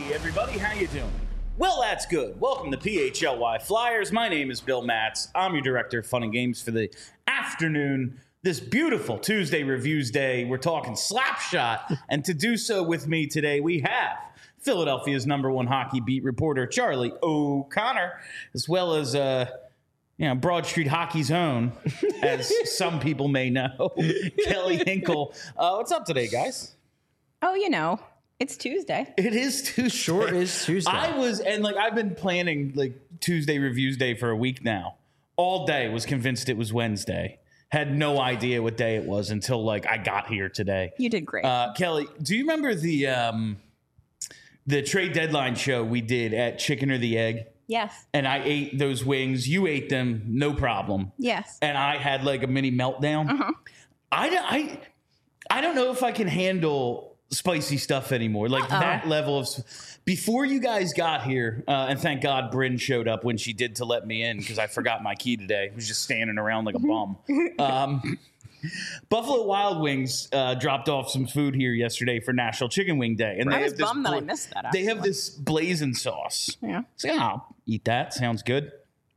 Everybody, how you doing? Well, that's good. Welcome to PHLY Flyers. My name is Bill Matz. I'm your director of fun and games for the afternoon. This beautiful Tuesday Reviews Day. We're talking Slapshot, and to do so with me today, we have Philadelphia's #1 hockey beat reporter, Charlie O'Connor, as well as Broad Street Hockey's own, as some people may know, Kelly Hinkle. What's up today, guys? Oh, it's Tuesday. It is Tuesday. Sure is Tuesday. I've been planning Tuesday Reviews Day for a week now. All day was convinced it was Wednesday. Had no idea what day it was until I got here today. You did great. Kelly, do you remember the trade deadline show we did at Chicken or the Egg? Yes. And I ate those wings. You ate them, no problem. Yes. And I had a mini meltdown. Uh-huh. I don't know if I can handle spicy stuff anymore. That level of... Before you guys got here, and thank God Bryn showed up when she did to let me in because I forgot my key today. I was just standing around like a bum. Buffalo Wild Wings dropped off some food here yesterday for National Chicken Wing Day. And I was bummed that I missed that. They have this blazing sauce. Yeah. So I'll eat that. Sounds good.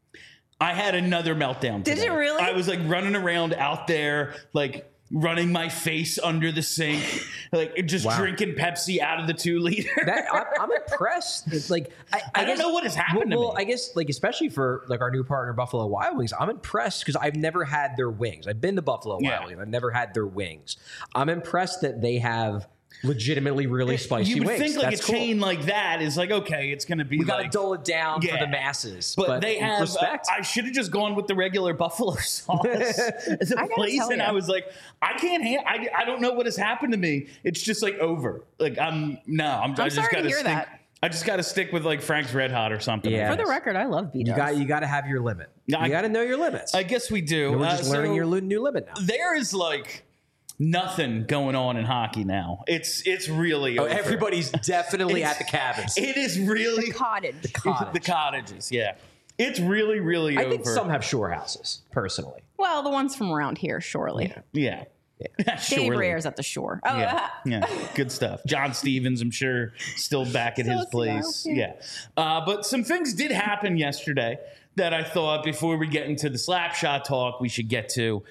I had another meltdown today. Did you really? I was running around out there, running my face under the sink, drinking Pepsi out of the 2-liter. I'm impressed. I don't know what has happened to me. I guess especially for our new partner Buffalo Wild Wings, I'm impressed because I've never had their wings. I've been to Buffalo Wild Wings. I've never had their wings. I'm impressed that they have legitimately really spicy wings. You would think That's a cool. chain like that is okay, it's going to be we got to dull it down for the masses. But they have respect. I should have just gone with the regular buffalo sauce as a place, and I was I can't I don't know what has happened to me. It's just over. I just got to stick. That. I just got to stick with Frank's Red Hot or something. Yeah. For the record, I love B-dubs. You got to have your limit. You got to know your limits. I guess we do. We're just learning your new limit now. There is nothing going on in hockey now. It's really over. Everybody's definitely at the cabins. It is really the cottage. The cottages, yeah. It's really, really over. I think some have shore houses, personally. Well, the ones from around here, surely. Yeah. Danny Breyer's at the shore. Oh, yeah. Good stuff. John Stevens, I'm sure, still back at his place. Yeah. But some things did happen yesterday that I thought before we get into the Slapshot talk, we should get to.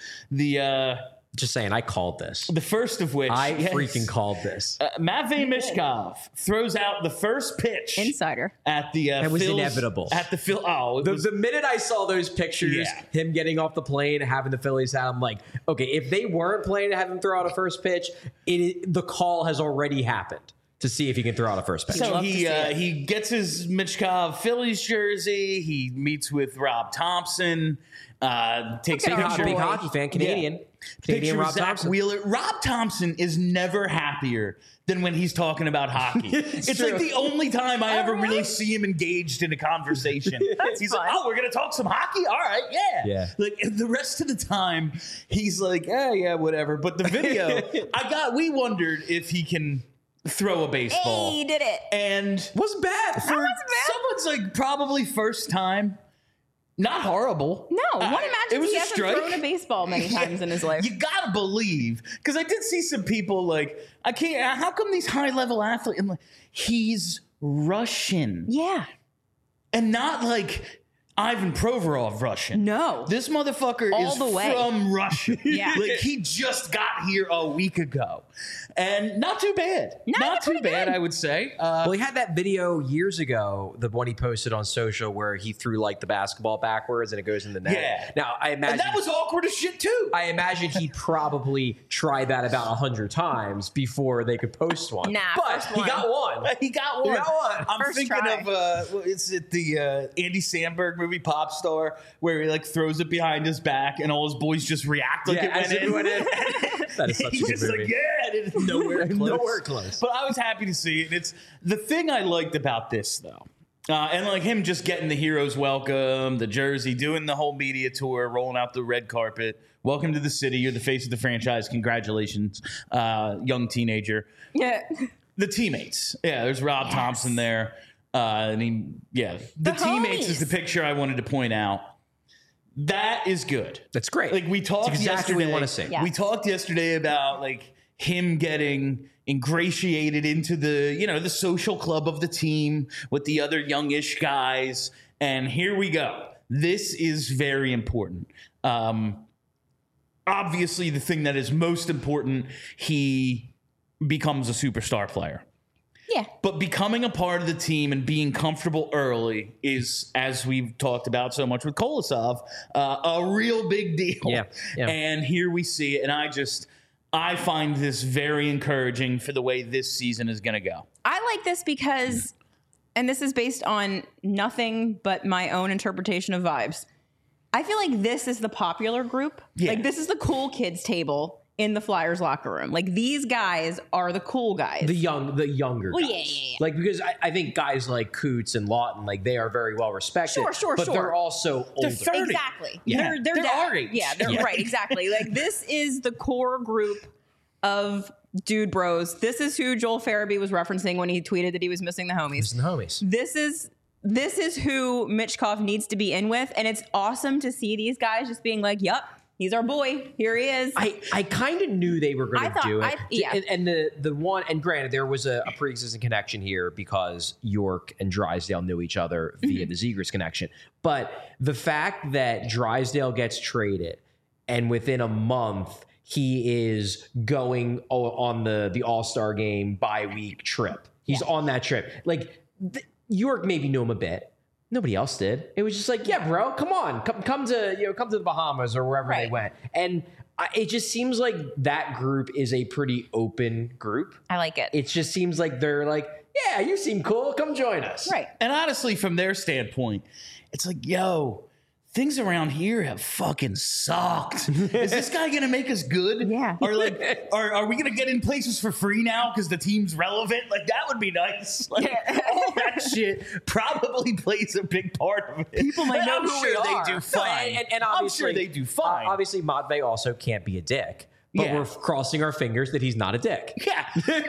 Just saying, I called this. The first of which... I freaking called this. Matvei Michkov throws out the first pitch. Insider. At the That was Phil's, inevitable. At the Phil... Oh, the minute I saw those pictures, him getting off the plane, having the Phillies out, I'm like, okay, if they weren't planning to have him throw out a first pitch, the call has already happened to see if he can throw out a first pitch. So he gets his Michkov Phillies jersey. He meets with Rob Thompson. Takes a picture. Big hockey fan, Canadian. Yeah. Canadian Picture Rob Zach Thompson. Wheeler. Rob Thompson is never happier than when he's talking about hockey. It's true. the only time I ever really see him engaged in a conversation. He's fun. we're going to talk some hockey? All right, yeah. The rest of the time, he's yeah, whatever. But the video, we wondered if he can throw a baseball. Hey, he did it. And wasn't bad. That wasn't bad. Someone's probably first time. Not horrible. No, one imagines it was he a hasn't strike. thrown a baseball many times in his life. You gotta believe, because I did see some people I can't. How come these high level athletes? He's Russian, Yeah. and not Ivan Provorov Russian. No. This motherfucker All is the way. from Russia. Yeah. He just got here a week ago. And not too bad. No, Not too pretty bad, good. I would say. Well, he had that video years ago, the one he posted on social where he threw the basketball backwards and it goes in the net. Yeah. Now, I imagine... And that was awkward as shit, too. I imagine he probably tried that about 100 times before they could post one. Nah, but first he one. got one. He got one. I'm First thinking try. of is it the Andy Samberg movie Pop Star, where he throws it behind his back and all his boys just react like it as went it in. went in. That is such He's a good just movie. and it's nowhere close. Nowhere close. But I was happy to see it. It's the thing I liked about this though. And him just getting the hero's welcome, the jersey, doing the whole media tour, rolling out the red carpet. Welcome to the city. You're the face of the franchise. Congratulations, young teenager. Yeah. The teammates. Yeah, there's Rob Thompson there. The teammates homies. is the picture I wanted to point out. That is good. That's great. We talked It's exactly what we yesterday. want to see. Yeah. We talked yesterday about him getting ingratiated into the social club of the team with the other youngish guys. And here we go. This is very important. Obviously, the thing that is most important, he becomes a superstar player. Yeah. But becoming a part of the team and being comfortable early is, as we've talked about so much with Kolosov, a real big deal. Yeah. And here we see it. And I find this very encouraging for the way this season is going to go. I like this because, and this is based on nothing but my own interpretation of vibes, I feel like this is the popular group. Yeah. Like, this is the cool kids table in the Flyers locker room. Like, these guys are the cool guys. The younger guys. Yeah. Like, because I think guys like Coots and Lawton, like, they are very well respected. Sure. But they're also older. 30. Exactly. Yeah. They're our age. Yeah, they're right. Exactly. Like, this is the core group of dude bros. This is who Joel Farabee was referencing when he tweeted that he was missing the homies. This is who Michkov needs to be in with. And it's awesome to see these guys just being like, yup, he's our boy. Here he is. I kind of knew they were going to do it. Yeah. And the one, and granted, there was a pre-existing connection here because York and Drysdale knew each other via the Zegras connection. But the fact that Drysdale gets traded and within a month he is going on the All-Star game bye-week trip. He's on that trip. Like, York maybe knew him a bit. Nobody else did. It was just like, yeah, bro, come on, come to the Bahamas or wherever they went. And it just seems like that group is a pretty open group. I like it. It just seems like they're like, yeah, you seem cool. Come join us. Right. And honestly, from their standpoint, it's like, yo, things around here have fucking sucked. Is this guy going to make us good? Yeah. Or like, are we going to get in places for free now because the team's relevant? Like, that would be nice. Like, all that shit probably plays a big part of it. People might know I'm who sure we they are. do fine. And I'm obviously, sure they do fine. Obviously, Matvey also can't be a dick. But Yeah. we're crossing our fingers that he's not a dick. Yeah.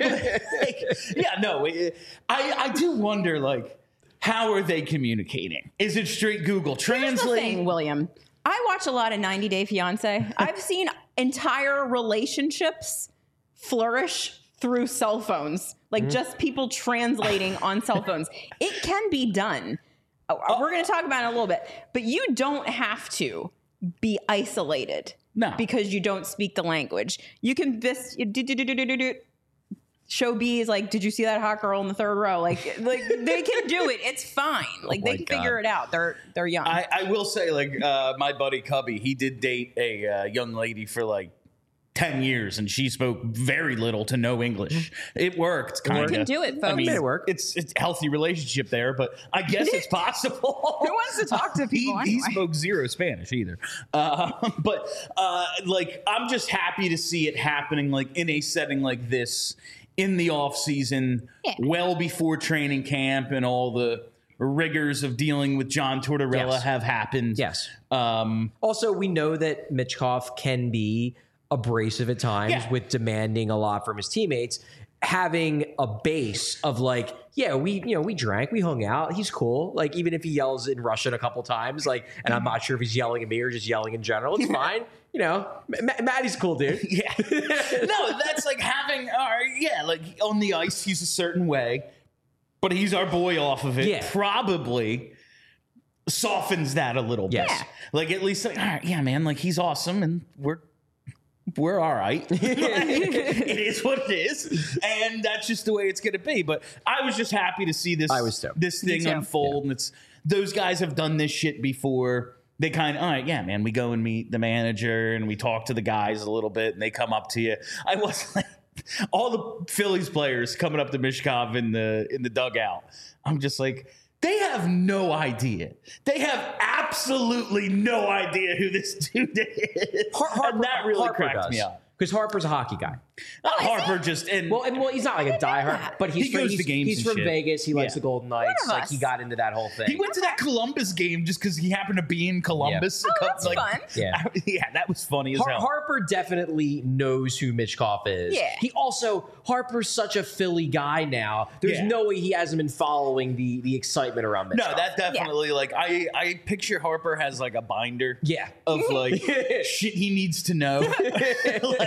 I do wonder, like, how are they communicating? Is it straight Google Here's the Translate? thing, William. I watch a lot of 90 Day Fiance. I've seen entire relationships flourish through cell phones, like just people translating on cell phones. It can be done. We're going to talk about it in a little bit, but you don't have to be isolated. No. Because you don't speak the language. You can show B is like, did you see that hot girl in the third row? Like they can do it. It's fine. Like they can figure it out. They're young. I will say, like, my buddy Cubby, he did date a young lady for like 10 years and she spoke very little to no English. It worked, kind of. You can do it, folks. I mean, Made it work. It's a healthy relationship there, but I guess it's possible. Who wants to talk to people He anyway? spoke zero Spanish either. Like, I'm just happy to see it happening, like, in a setting like this in the off season, well before training camp and all the rigors of dealing with John Tortorella have happened. Yes. Also, we know that Michkov can be abrasive at times with demanding a lot from his teammates. Having a base of like, yeah, we drank, we hung out, he's cool. Like, even if he yells in Russian a couple times, like, and I'm not sure if he's yelling at me or just yelling in general, it's fine. You know, Maddie's a cool dude. Yeah. No, that's like having, like on the ice, he's a certain way, but he's our boy off of it. Yeah. Probably softens that a little bit. Yes. Like, at least, like, all right, yeah, man, like, he's awesome and we're all right. It is what it is. And that's just the way it's going to be. But I was just happy to see this, I was too. this thing too. unfold. And it's, those guys have done this shit before. They kind of, all right, yeah, man, we go and meet the manager and we talk to the guys a little bit and they come up to you. I was like, all the Phillies players coming up to Michkov in the dugout. I'm just like, they have no idea. They have absolutely no idea who this dude is. And that really cracked me up. Because Harper's a hockey guy. Harper just Well, he's not like a diehard, but He goes to games he's and from shit. Vegas. He likes the Golden Knights. One of Like, he us. got into that whole thing. He went to that Columbus game just because he happened to be in Columbus. Oh, that's fun. Yeah. Yeah, that was funny as hell. Harper definitely knows who Michkov is. Yeah. Harper's such a Philly guy now. There's Yeah. no way he hasn't been following the excitement around Michkov. No, that definitely, like, I picture Harper has like a binder Yeah. of like shit he needs to know. Like,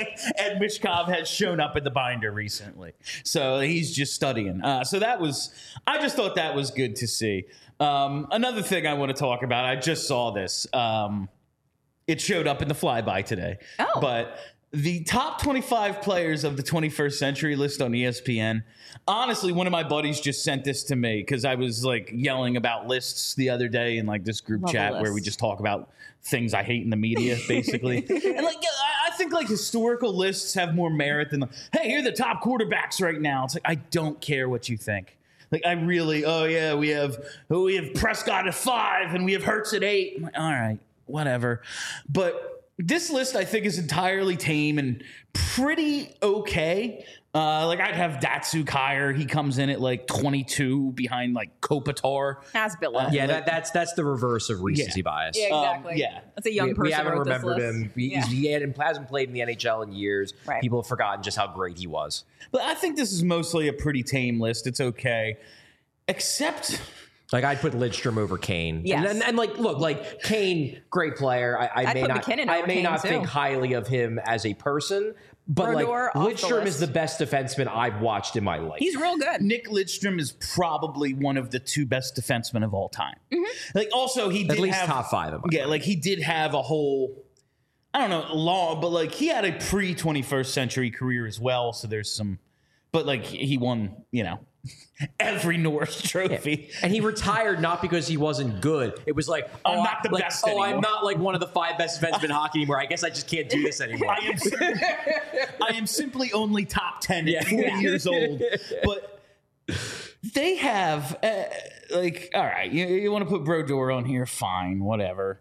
like Ed Mishkov has shown up in the binder recently, so he's just studying. So I just thought that was good to see. Another thing I want to talk about, I just saw this. It showed up in the flyby today. Oh. But the top 25 players of the 21st century list on ESPN. Honestly, one of my buddies just sent this to me because I was like yelling about lists the other day in like this group chat where we just talk about things I hate in the media, basically. And like, I think like historical lists have more merit than, hey, here are the top quarterbacks right now. It's like, I don't care what you think. Like, I really, we have Prescott at 5 and we have Hurts at 8. I'm like, all right, whatever. But this list, I think, is entirely tame and pretty okay. Like, I'd have Datsuk higher. He comes in at like 22 behind like Kopitar. That's Bill. Yeah, that's the reverse of recency bias. Yeah, exactly. Yeah. That's a young person. We haven't wrote this remembered list. him. He hasn't played in the NHL in years. Right. People have forgotten just how great he was. But I think this is mostly a pretty tame list. It's okay. Except... Like, I'd put Lidstrom over Kane. Yes. And like, look, like Kane, great player. I may put not, McKinnon I over may Kane, not too. think highly of him as a person, but Brodeur like off the Lidstrom is list. the best defenseman I've watched in my life. He's real good. Nick Lidstrom is probably one of the 2 best defensemen of all time. Like, also, he did at least have... top 5 of them. Yeah, like, he did have a whole... I don't know, long, but like, he had a pre-21st century career as well, so there's some... But like, he won, every Norris trophy. And he retired not because he wasn't good. It was like, I'm not the best anymore. I'm not like one of the 5 best defensemen in hockey anymore. I guess I just can't do this anymore. I am simply only top 10 at 40 years old. But they have, all right, you want to put Brodeur on here, fine, whatever.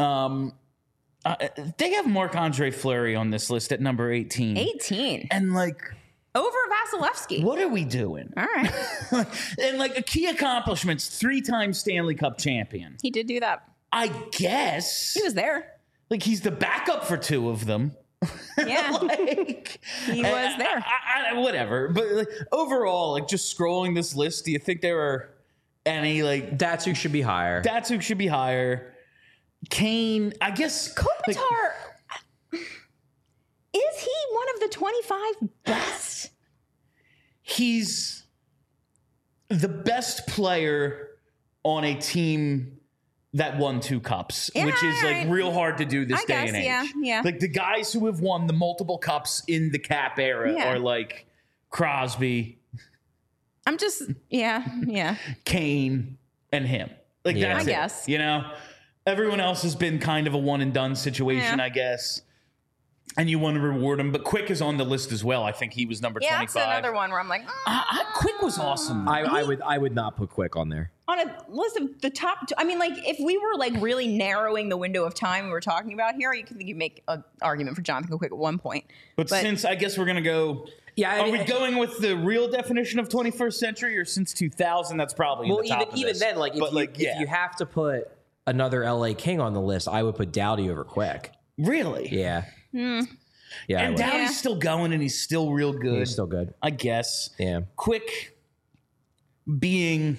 They have Marc-Andre Fleury on this list at number 18. 18. And like... Over Vasilevsky. What are we doing? All right. And like key accomplishments, 3-time Stanley Cup champion. He did do that. I guess. He was there. Like, he's the backup for 2 of them. Yeah. He was there. Whatever. But like, overall, like just scrolling this list, do you think there are any like... Datsuk should be higher. Datsuk should be higher. Kane, I guess... Kopitar... Is he one of the 25 best? He's the best player on a team that won 2 cups, which is like real hard to do this day and age. Yeah. Like the guys who have won the multiple cups in the Cap era are like Crosby, I'm just, Kane, and him. Like that's I guess. it. Everyone else has been kind of a one and done situation, I guess. And you want to reward him, but Quick is on the list as well. I think he was number 25. that's another one where I'm like, Quick was awesome. I would not put Quick on there. on a list of the top. I mean, like if we were like really narrowing the window of time we were talking about here, you could make an argument for Jonathan Quick at one point. But since I guess we're gonna go. Yeah, are we going with the real definition of 21st century, or since 2000? That's probably in the top of even this. then, like if you have to put another LA King on the list, I would put Doughty over Quick. Really? Yeah. Yeah, and Doughty's still going, and he's still real good. He's still good, I guess. Yeah. Quick being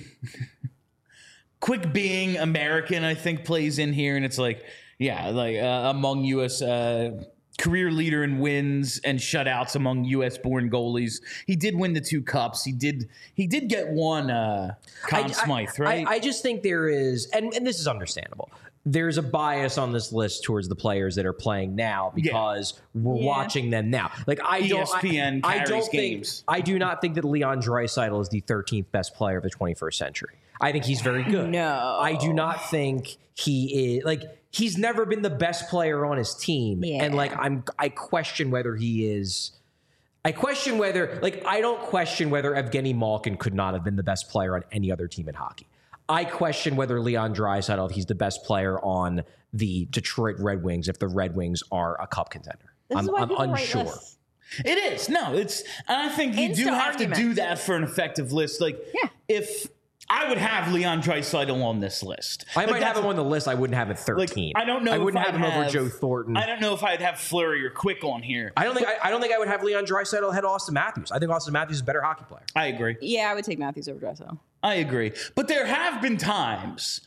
American, I think, plays in here, and it's like, among U.S. Career leader in wins and shutouts among U.S.-born goalies. He did win the 2 cups. He did get one Conn Smythe, right? I just think there is, and this is understandable. There's a bias on this list towards the players that are playing now because we're watching them now. Like ESPN carries games. I do not think that Leon Draisaitl is the 13th best player of the 21st century. I think he's very good. No. I do not think he is he's never been the best player on his team. Yeah. And I question whether he is. I don't question whether Evgeny Malkin could not have been the best player on any other team in hockey. I question whether Leon Draisaitl, he's the best player on the Detroit Red Wings if the Red Wings are a cup contender. I'm unsure. It is. No, and I think you do have to do that for an effective list. If I would have Leon Draisaitl on this list. I might have him on the list. I wouldn't have it 13. I don't know. I wouldn't have him over Joe Thornton. I don't know if I'd have Fleury or Quick on here. I don't think I would have Leon Draisaitl ahead of Austin Matthews. I think Austin Matthews is a better hockey player. I agree. Yeah, I would take Matthews over Draisaitl. I agree. But there have been times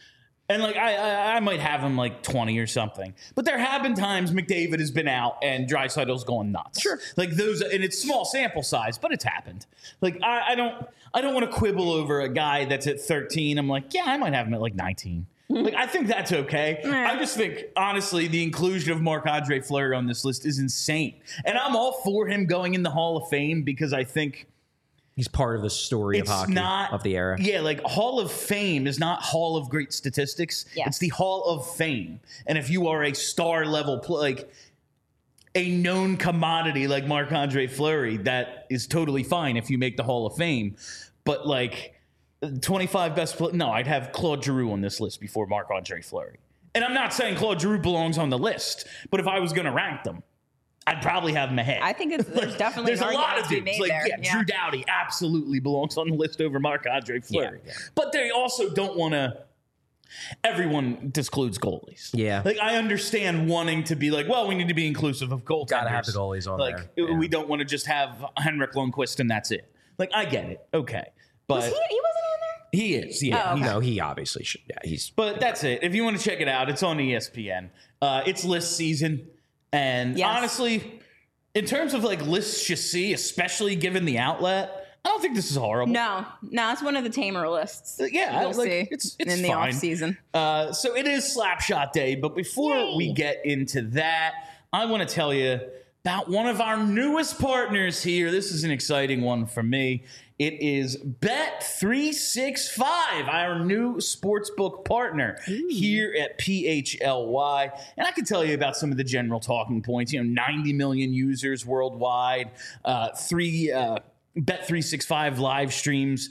And like I might have him like 20 or something, but there have been times McDavid has been out and Draisaitl's going nuts. Sure, like those, and it's small sample size, but it's happened. Like I don't want to quibble over a guy that's at 13. I'm like, yeah, I might have him at like 19. Like I think that's okay. I just think honestly the inclusion of Marc-Andre Fleury on this list is insane, and I'm all for him going in the Hall of Fame because I think. He's part of the story of hockey of the era. Yeah, like Hall of Fame is not Hall of Great Statistics. Yeah. It's the Hall of Fame. And if you are a star level, like a known commodity like Marc-Andre Fleury, that is totally fine if you make the Hall of Fame. But like 25 best, no, I'd have Claude Giroux on this list before Marc-Andre Fleury. And I'm not saying Claude Giroux belongs on the list, but if I was going to rank them, I'd probably have him ahead. I think there's definitely there's a lot of to be dudes. made Like, there. yeah, Drew Doughty absolutely belongs on the list over Marc-Andre Fleury. Yeah. But they also don't want to. Everyone discludes goalies. Yeah. Like I understand wanting to be like, well, we need to be inclusive of goaltenders. Gotta have the goalies on like, there. we don't want to just have Henrik Lundqvist and that's it. Like I get it. Okay. But He wasn't on there? he is. Yeah. Oh, okay. No, he obviously should. Yeah, he's. But that's it. If you want to check it out, it's on ESPN. It's list season. And Yes. honestly, in terms of like lists you see, especially given the outlet, I don't think this is horrible. No, it's one of the tamer lists. Yeah, you'll like, see it's in the fine. off season. So it is Slapshot Day, but before we get into that, I want to tell you about one of our newest partners here. This is an exciting one for me. It is Bet365, our new sportsbook partner here at PHLY. And I can tell you about some of the general talking points. 90 million users worldwide, Bet365 live streams,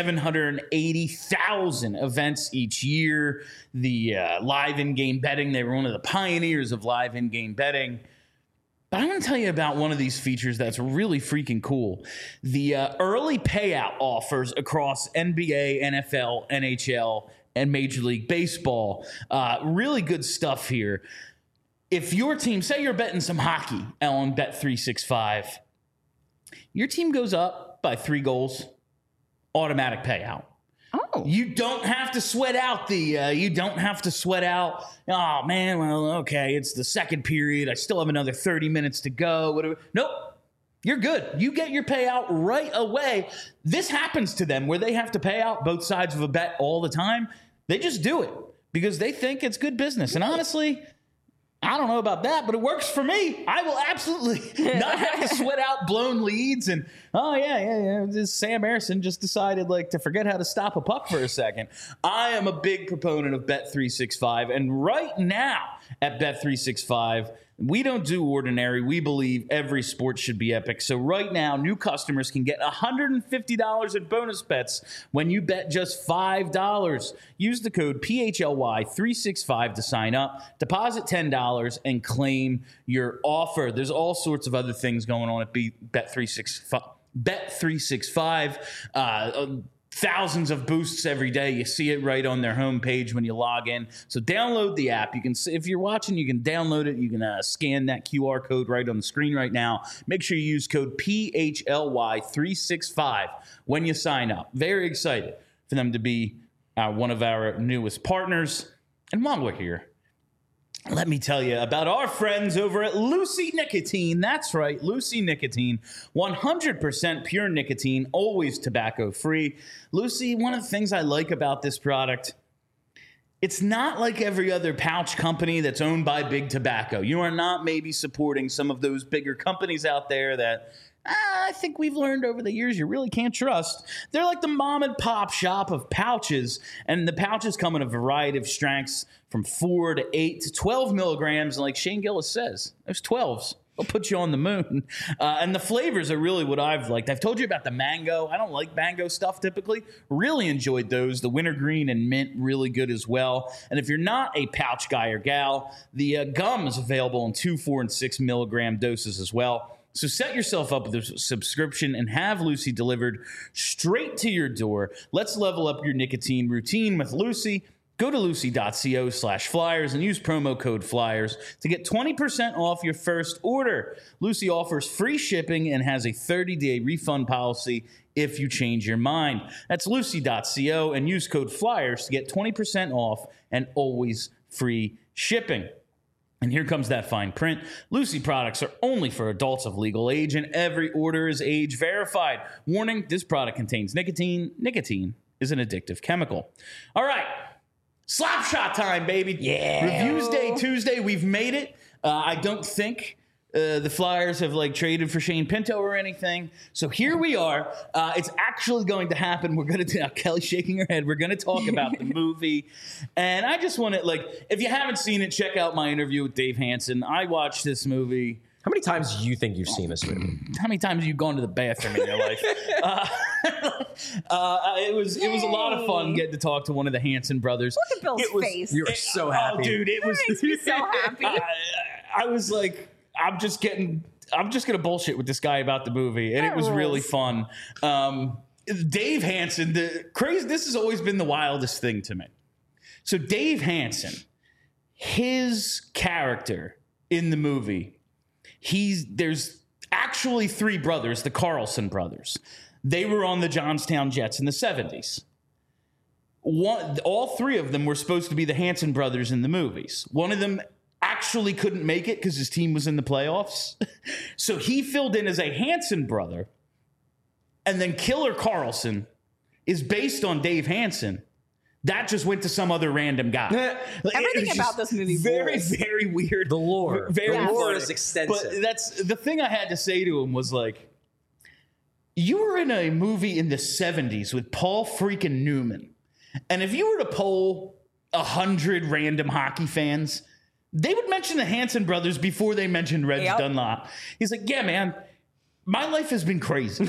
780,000 events each year. The live in-game betting, they were one of the pioneers of live in-game betting. But I want to tell you about one of these features that's really freaking cool. The early payout offers across NBA, NFL, NHL, and Major League Baseball. Really good stuff here. If your team, say you're betting some hockey on Bet365, your team goes up by 3 goals, automatic payout. Oh. You don't have to sweat out oh man, well, okay, it's the second period. I still have another 30 minutes to go. Whatever. Nope. You're good. You get your payout right away. This happens to them where they have to pay out both sides of a bet all the time. They just do it because they think it's good business. And honestly, I don't know about that, but it works for me. I will absolutely not have to sweat out blown leads. And, this Sam Harrison just decided to forget how to stop a puck for a second. I am a big proponent of Bet365. And right now at Bet365, we don't do ordinary. We believe every sport should be epic. So right now, new customers can get $150 in bonus bets when you bet just $5. Use the code PHLY365 to sign up. Deposit $10 and claim your offer. There's all sorts of other things going on at Bet365. Thousands of boosts every day. You see it right on their homepage when you log in. So download the app. You can, if you're watching, you can download it. You can scan that QR code right on the screen right now. Make sure you use code PHLY365 when you sign up. Very excited for them to be one of our newest partners. And while we're here, let me tell you about our friends over at Lucy Nicotine. That's right, Lucy Nicotine. 100% pure nicotine, always tobacco-free. Lucy, one of the things I like about this product, it's not like every other pouch company that's owned by Big Tobacco. You are not maybe supporting some of those bigger companies out there that I think we've learned over the years you really can't trust. They're like the mom and pop shop of pouches, and the pouches come in a variety of strengths from 4 to 8 to 12 milligrams. And like Shane Gillis says, those 12s will put you on the moon. And the flavors are really what I've liked. I've told you about the mango. I don't like mango stuff typically. Really enjoyed those. The wintergreen and mint, really good as well. And if you're not a pouch guy or gal, the gum is available in 2, 4, and 6 milligram doses as well. So set yourself up with a subscription and have Lucy delivered straight to your door. Let's level up your nicotine routine with Lucy. Go to Lucy.co/flyers and use promo code FLYERS to get 20% off your first order. Lucy offers free shipping and has a 30-day refund policy if you change your mind. That's Lucy.co and use code FLYERS to get 20% off and always free shipping. And here comes that fine print. Lucy products are only for adults of legal age, and every order is age verified. Warning, this product contains nicotine. Nicotine is an addictive chemical. All right, Slapshot time, baby. Yeah. Reviews Day Tuesday, we've made it. I don't think the Flyers have traded for Shane Pinto or anything. So here we are. It's actually going to happen. We're going to Kelly's shaking her head. We're going to talk about the movie. And I just want to if you haven't seen it, check out my interview with Dave Hansen. I watched this movie. How many times do you think you've seen this movie? How many times have you gone to the bathroom in your life? It was a lot of fun getting to talk to one of the Hansen brothers. Look at Bill's face. You were so happy. Oh, dude, it was makes me so happy. I was like, I'm just gonna bullshit with this guy about the movie, and That it was really rules. fun. Dave Hansen, this has always been the wildest thing to me. So Dave Hansen, his character in the movie, there's actually three brothers, the Carlson brothers. They were on the Johnstown Jets in the 70s. All three of them were supposed to be the Hansen brothers in the movies. One of them actually couldn't make it because his team was in the playoffs. So he filled in as a Hansen brother. And then Killer Carlson is based on Dave Hansen. That just went to some other random guy. Everything It was about just this movie very, rules. very weird. The lore. Very The lore funny. is extensive. But that's the thing I had to say to him was you were in a movie in the 70s with Paul freaking Newman. And if you were to poll 100 random hockey fans, they would mention the Hansen brothers before they mentioned Reg Dunlop. He's like, yeah, man, my life has been crazy.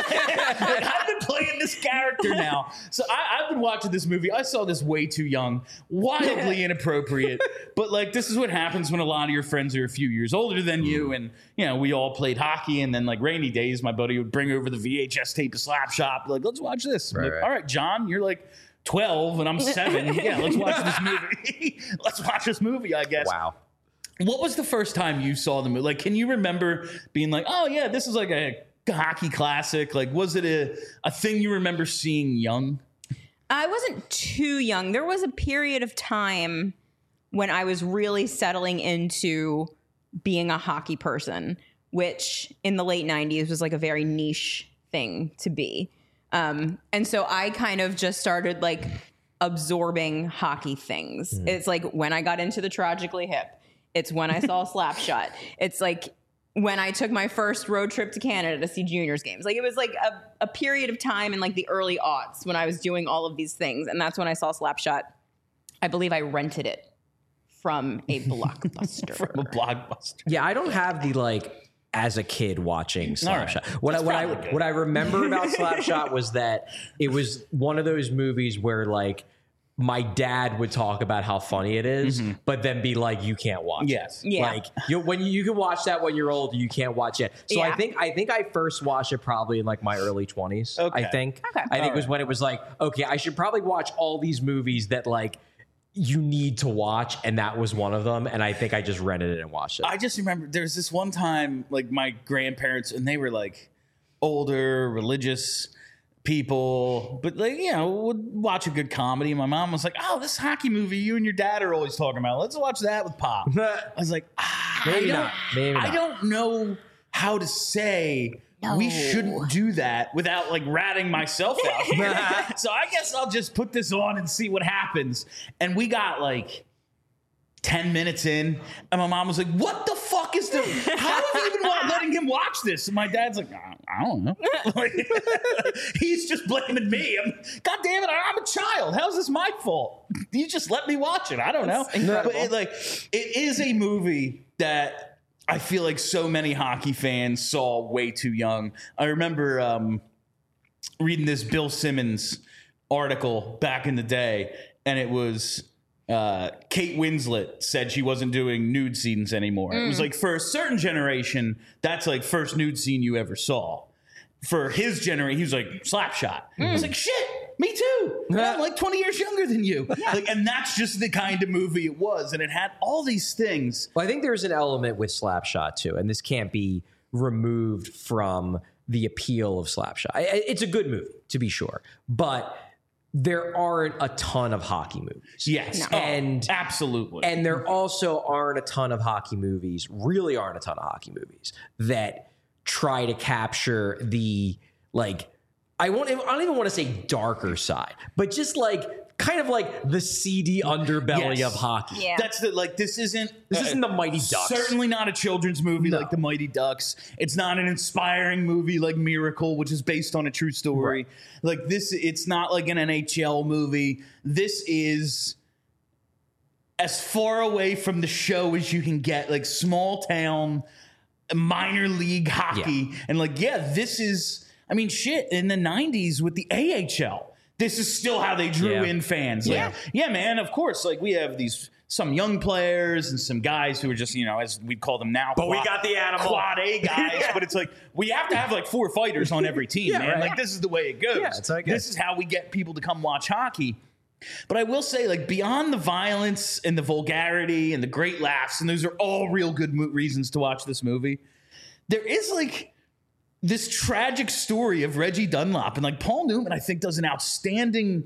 I've been playing this character now. So I've been watching this movie. I saw this way too young, wildly inappropriate. But this is what happens when a lot of your friends are a few years older than you. And, we all played hockey. And then rainy days, my buddy would bring over the VHS tape of Slapshot. Let's watch this. I'm Right. all right, John, you're 12 and I'm 7. Yeah, let's watch this movie. Let's watch this movie, I guess. Wow. What was the first time you saw the movie? Can you remember being oh yeah, this is a hockey classic? Was it a thing you remember seeing young? I wasn't too young. There was a period of time when I was really settling into being a hockey person, which in the late 90s was a very niche thing to be. And so I kind of just started absorbing hockey things. It's when I got into the Tragically Hip. It's when I saw Slapshot. It's when I took my first road trip to Canada to see juniors games. It was a period of time in the early aughts when I was doing all of these things. And that's when I saw Slapshot. I believe I rented it from a Blockbuster. From a Blockbuster. Yeah, I don't have the as a kid watching Slapshot. Right. What I remember about Slapshot was that it was one of those movies where my dad would talk about how funny it is, but then be you can't watch Yes. it. Yeah. When you can watch that when you're old, you can't watch it. So Yeah. I think I first watched it probably in my early 20s. Okay. I think. Okay. I think it was when it was okay, I should probably watch all these movies that you need to watch, and that was one of them. And I think I just rented it and watched it. I just remember there's this one time my grandparents, and they were older, religious people, but would watch a good comedy. My mom was oh, this hockey movie you and your dad are always talking about, let's watch that with Pop. I was Maybe not. I don't know how to say we shouldn't do that without ratting myself out. So I guess I'll just put this on and see what happens. And we got 10 minutes in, and my mom was like, what the fuck is this? How have you been letting him watch this? And my dad's I don't know. He's just blaming me. God damn it, I'm a child. How's this my fault? You just let me watch it. I don't know. Incredible. But it is a movie that I feel so many hockey fans saw way too young. I remember reading this Bill Simmons article back in the day, and it was Kate Winslet said she wasn't doing nude scenes anymore. It was for a certain generation, that's first nude scene you ever saw. For his generation, he was Slapshot. I was shit, Me too. And I'm like 20 years younger than you. Like, and that's just the kind of movie it was. And it had all these things. Well, I think there's an element with Slapshot too, and this can't be removed from the appeal of Slapshot. It's a good movie, to be sure, but there aren't a ton of hockey movies. Yes. No. And absolutely. And there also aren't a ton of hockey movies, really aren't a ton of hockey movies that try to capture the, like, I don't even want to say darker side, but just like kind of like the seedy underbelly of hockey. Yeah. That's the, like, this isn't the Mighty Ducks. Certainly not a children's movie like the Mighty Ducks. It's not an inspiring movie like Miracle, which is based on a true story. Right. Like this, it's not like an NHL movie. This is as far away from the show as you can get, like small town, minor league hockey. Yeah. And like, this is, I mean, shit, in the 90s with the AHL. This is still how they drew in fans. Like, man, of course. Like, we have some young players and some guys who are just, as we call them now. But we got the animal. Quad A guys. But it's like, we have to have like 4 fighters on every team, man. Right. Like, this is the way it goes. Yeah, that's how it goes. This is how we get people to come watch hockey. But I will say, like, beyond the violence and the vulgarity and the great laughs, and those are all real good reasons to watch this movie, there is, like, this tragic story of Reggie Dunlop, and like Paul Newman, I think, does an outstanding,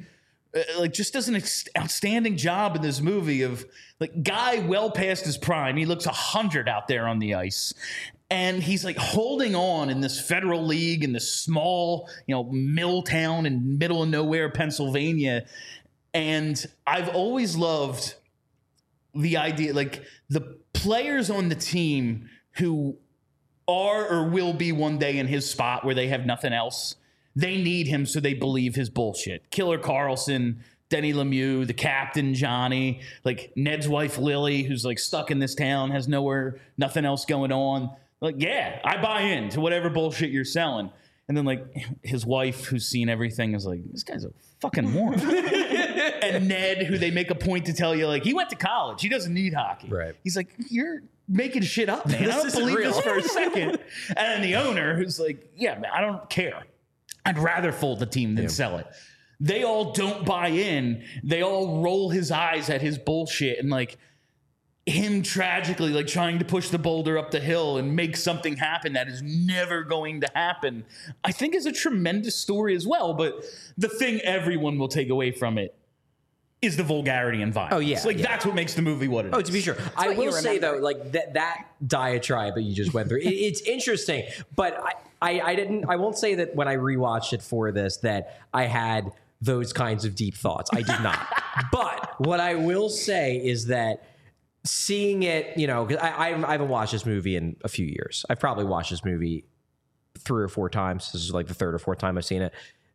outstanding job in this movie of like guy well past his prime. He looks 100 out there on the ice, and he's like holding on in this federal league in this small, mill town in middle of nowhere, Pennsylvania. And I've always loved the idea, like the players on the team who are or will be one day in his spot where they have nothing else. They need him, so they believe his bullshit. Killer Carlson, Denny Lemieux, the captain, Johnny, like Ned's wife, Lily, who's like stuck in this town, has nothing else going on. Like, I buy into whatever bullshit you're selling. And then like his wife, who's seen everything, is like, this guy's a fucking moron. And Ned, who they make a point to tell you, like, he went to college. He doesn't need hockey. Right. He's like, you're making shit up, man. I don't believe this for a second. And then the owner, who's like, man, I don't care. I'd rather fold the team than sell it. They all don't buy in. They all roll his eyes at his bullshit, and like him tragically like trying to push the boulder up the hill and make something happen that is never going to happen, I think is a tremendous story as well. But the thing everyone will take away from it is the vulgarity and violence. Oh, yeah. Like, that's what makes the movie what it is. Oh, to be sure. I will say, though, like, that diatribe that you just went through, it's interesting. But I won't say that when I rewatched it for this that I had those kinds of deep thoughts. I did not. But what I will say is that seeing it, because I haven't watched this movie in a few years. I've probably watched this movie 3 or 4 times. This is like the 3rd or 4th time I've seen it.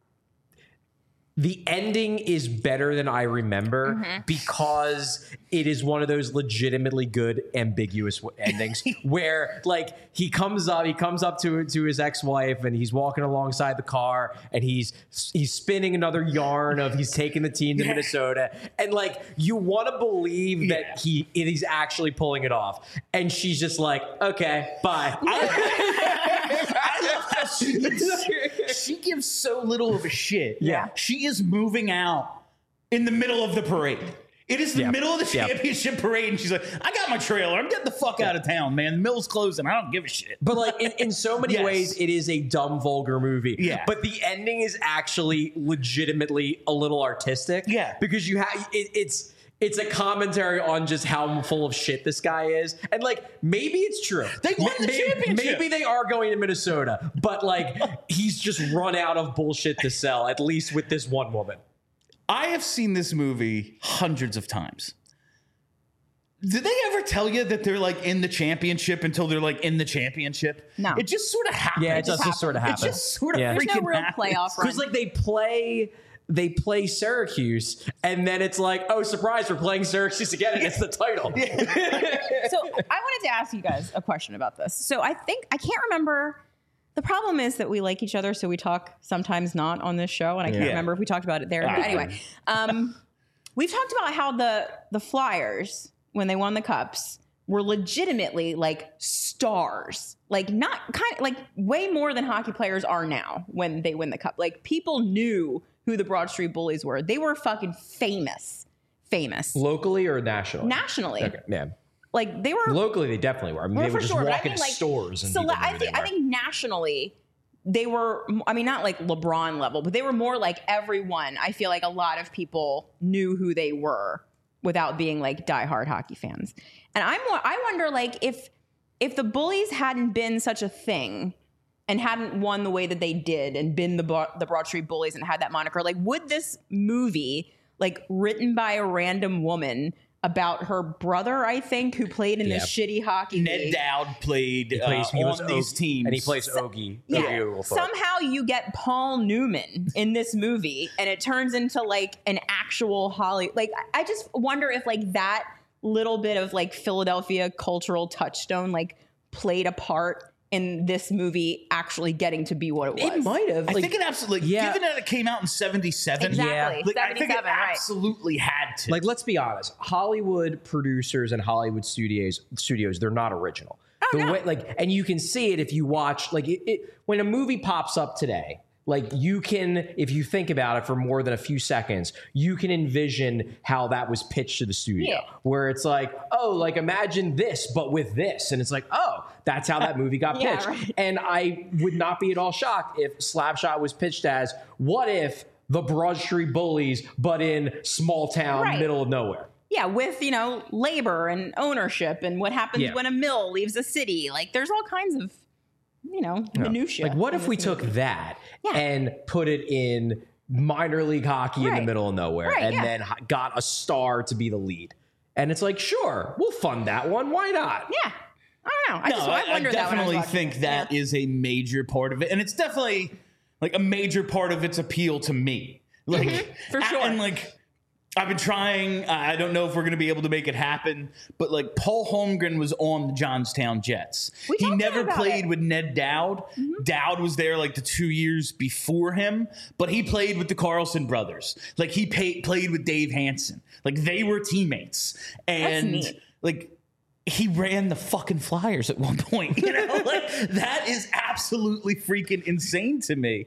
The ending is better than I remember because it is one of those legitimately good ambiguous endings where like he comes up to his ex-wife and he's walking alongside the car and he's spinning another yarn of he's taking the team to Minnesota, and like you want to believe that he's actually pulling it off, and she's just like, okay, bye. I love how she gives so little of a shit. Yeah. She is moving out in the middle of the parade. It is the middle of the championship parade, and she's like, I got my trailer. I'm getting the fuck out of town, man. The mill's closing. I don't give a shit. But like in so many ways, it is a dumb, vulgar movie. Yeah. But the ending is actually legitimately a little artistic. Yeah. Because you have it's a commentary on just how full of shit this guy is. And like, maybe it's true. They won the championship. Maybe they are going to Minnesota, but like, he's just run out of bullshit to sell, at least with this one woman. I have seen this movie hundreds of times. Did they ever tell you that they're like in the championship until they're like in the championship? No. It just sort of happens. Yeah, it does just sort of happen. It just sort of freaking There's no real happens. playoff run. Because like they play Syracuse, and then it's like, oh, surprise, we're playing Syracuse again, and it's the title. So I wanted to ask you guys a question about this. So I can't remember. The problem is that we like each other, so we talk sometimes not on this show, and I can't remember if we talked about it there. But anyway, we've talked about how the Flyers, when they won the Cups, were legitimately like stars, like not kind of like way more than hockey players are now when they win the cup. Like people knew who the Broad Street Bullies were. They were fucking famous. Locally or nationally? Nationally. Okay, yeah. Like they were Locally, they definitely were. I mean, they for would just sure, but walk I mean, into like, stores and so people knew I who think they were. nationally they were, I mean, not like LeBron level, but they were more like everyone. I feel like a lot of people knew who they were without being like diehard hockey fans. And I wonder like if the Bullies hadn't been such a thing and hadn't won the way that they did and been the Broad Street Bullies and had that moniker, like would this movie, like written by a random woman about her brother, I think, who played in this shitty hockey Ned league. Dowd played on these teams. And he plays Ogie. Yeah. Ogie Somehow you get Paul Newman in this movie and it turns into like an actual Hollywood. Like, I just wonder if like that little bit of like Philadelphia cultural touchstone like played a part in this movie actually getting to be what it was. It might have. I think it absolutely, yeah. given that it came out in 77, Exactly. like, I think it 77, right. absolutely had to. Like, let's be honest. Hollywood producers and Hollywood studios, they're not original. And you can see it if you watch, like, when a movie pops up today, like you can, if you think about it for more than a few seconds, you can envision how that was pitched to the studio. Where it's like, oh, like imagine this, but with this. And it's like, oh, that's how that movie got pitched. Right. And I would not be at all shocked if Slapshot was pitched as, what if the Broad Street Bullies, but in small town, middle of nowhere? Yeah, with, labor and ownership and what happens when a mill leaves a city. Like there's all kinds of, minutia. Like, what if we took that and put it in minor league hockey in the middle of nowhere and then got a star to be the lead? And it's like, sure, we'll fund that one. Why not? Yeah. I don't know. I definitely think that is a major part of it. And it's definitely like a major part of its appeal to me. Like, for sure. And like, I've been trying. I don't know if we're going to be able to make it happen, but like Paul Holmgren was on the Johnstown Jets. He never played with Ned Dowd. Dowd was there like the 2 years before him, but he played with the Carlson brothers. Like he played with Dave Hansen. Like they were teammates. And That's neat. like he ran the fucking Flyers at one point. Like that is absolutely freaking insane to me.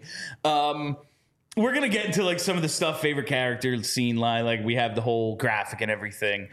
We're going to get into like some of the stuff, favorite character scene line. Like we have the whole graphic and everything.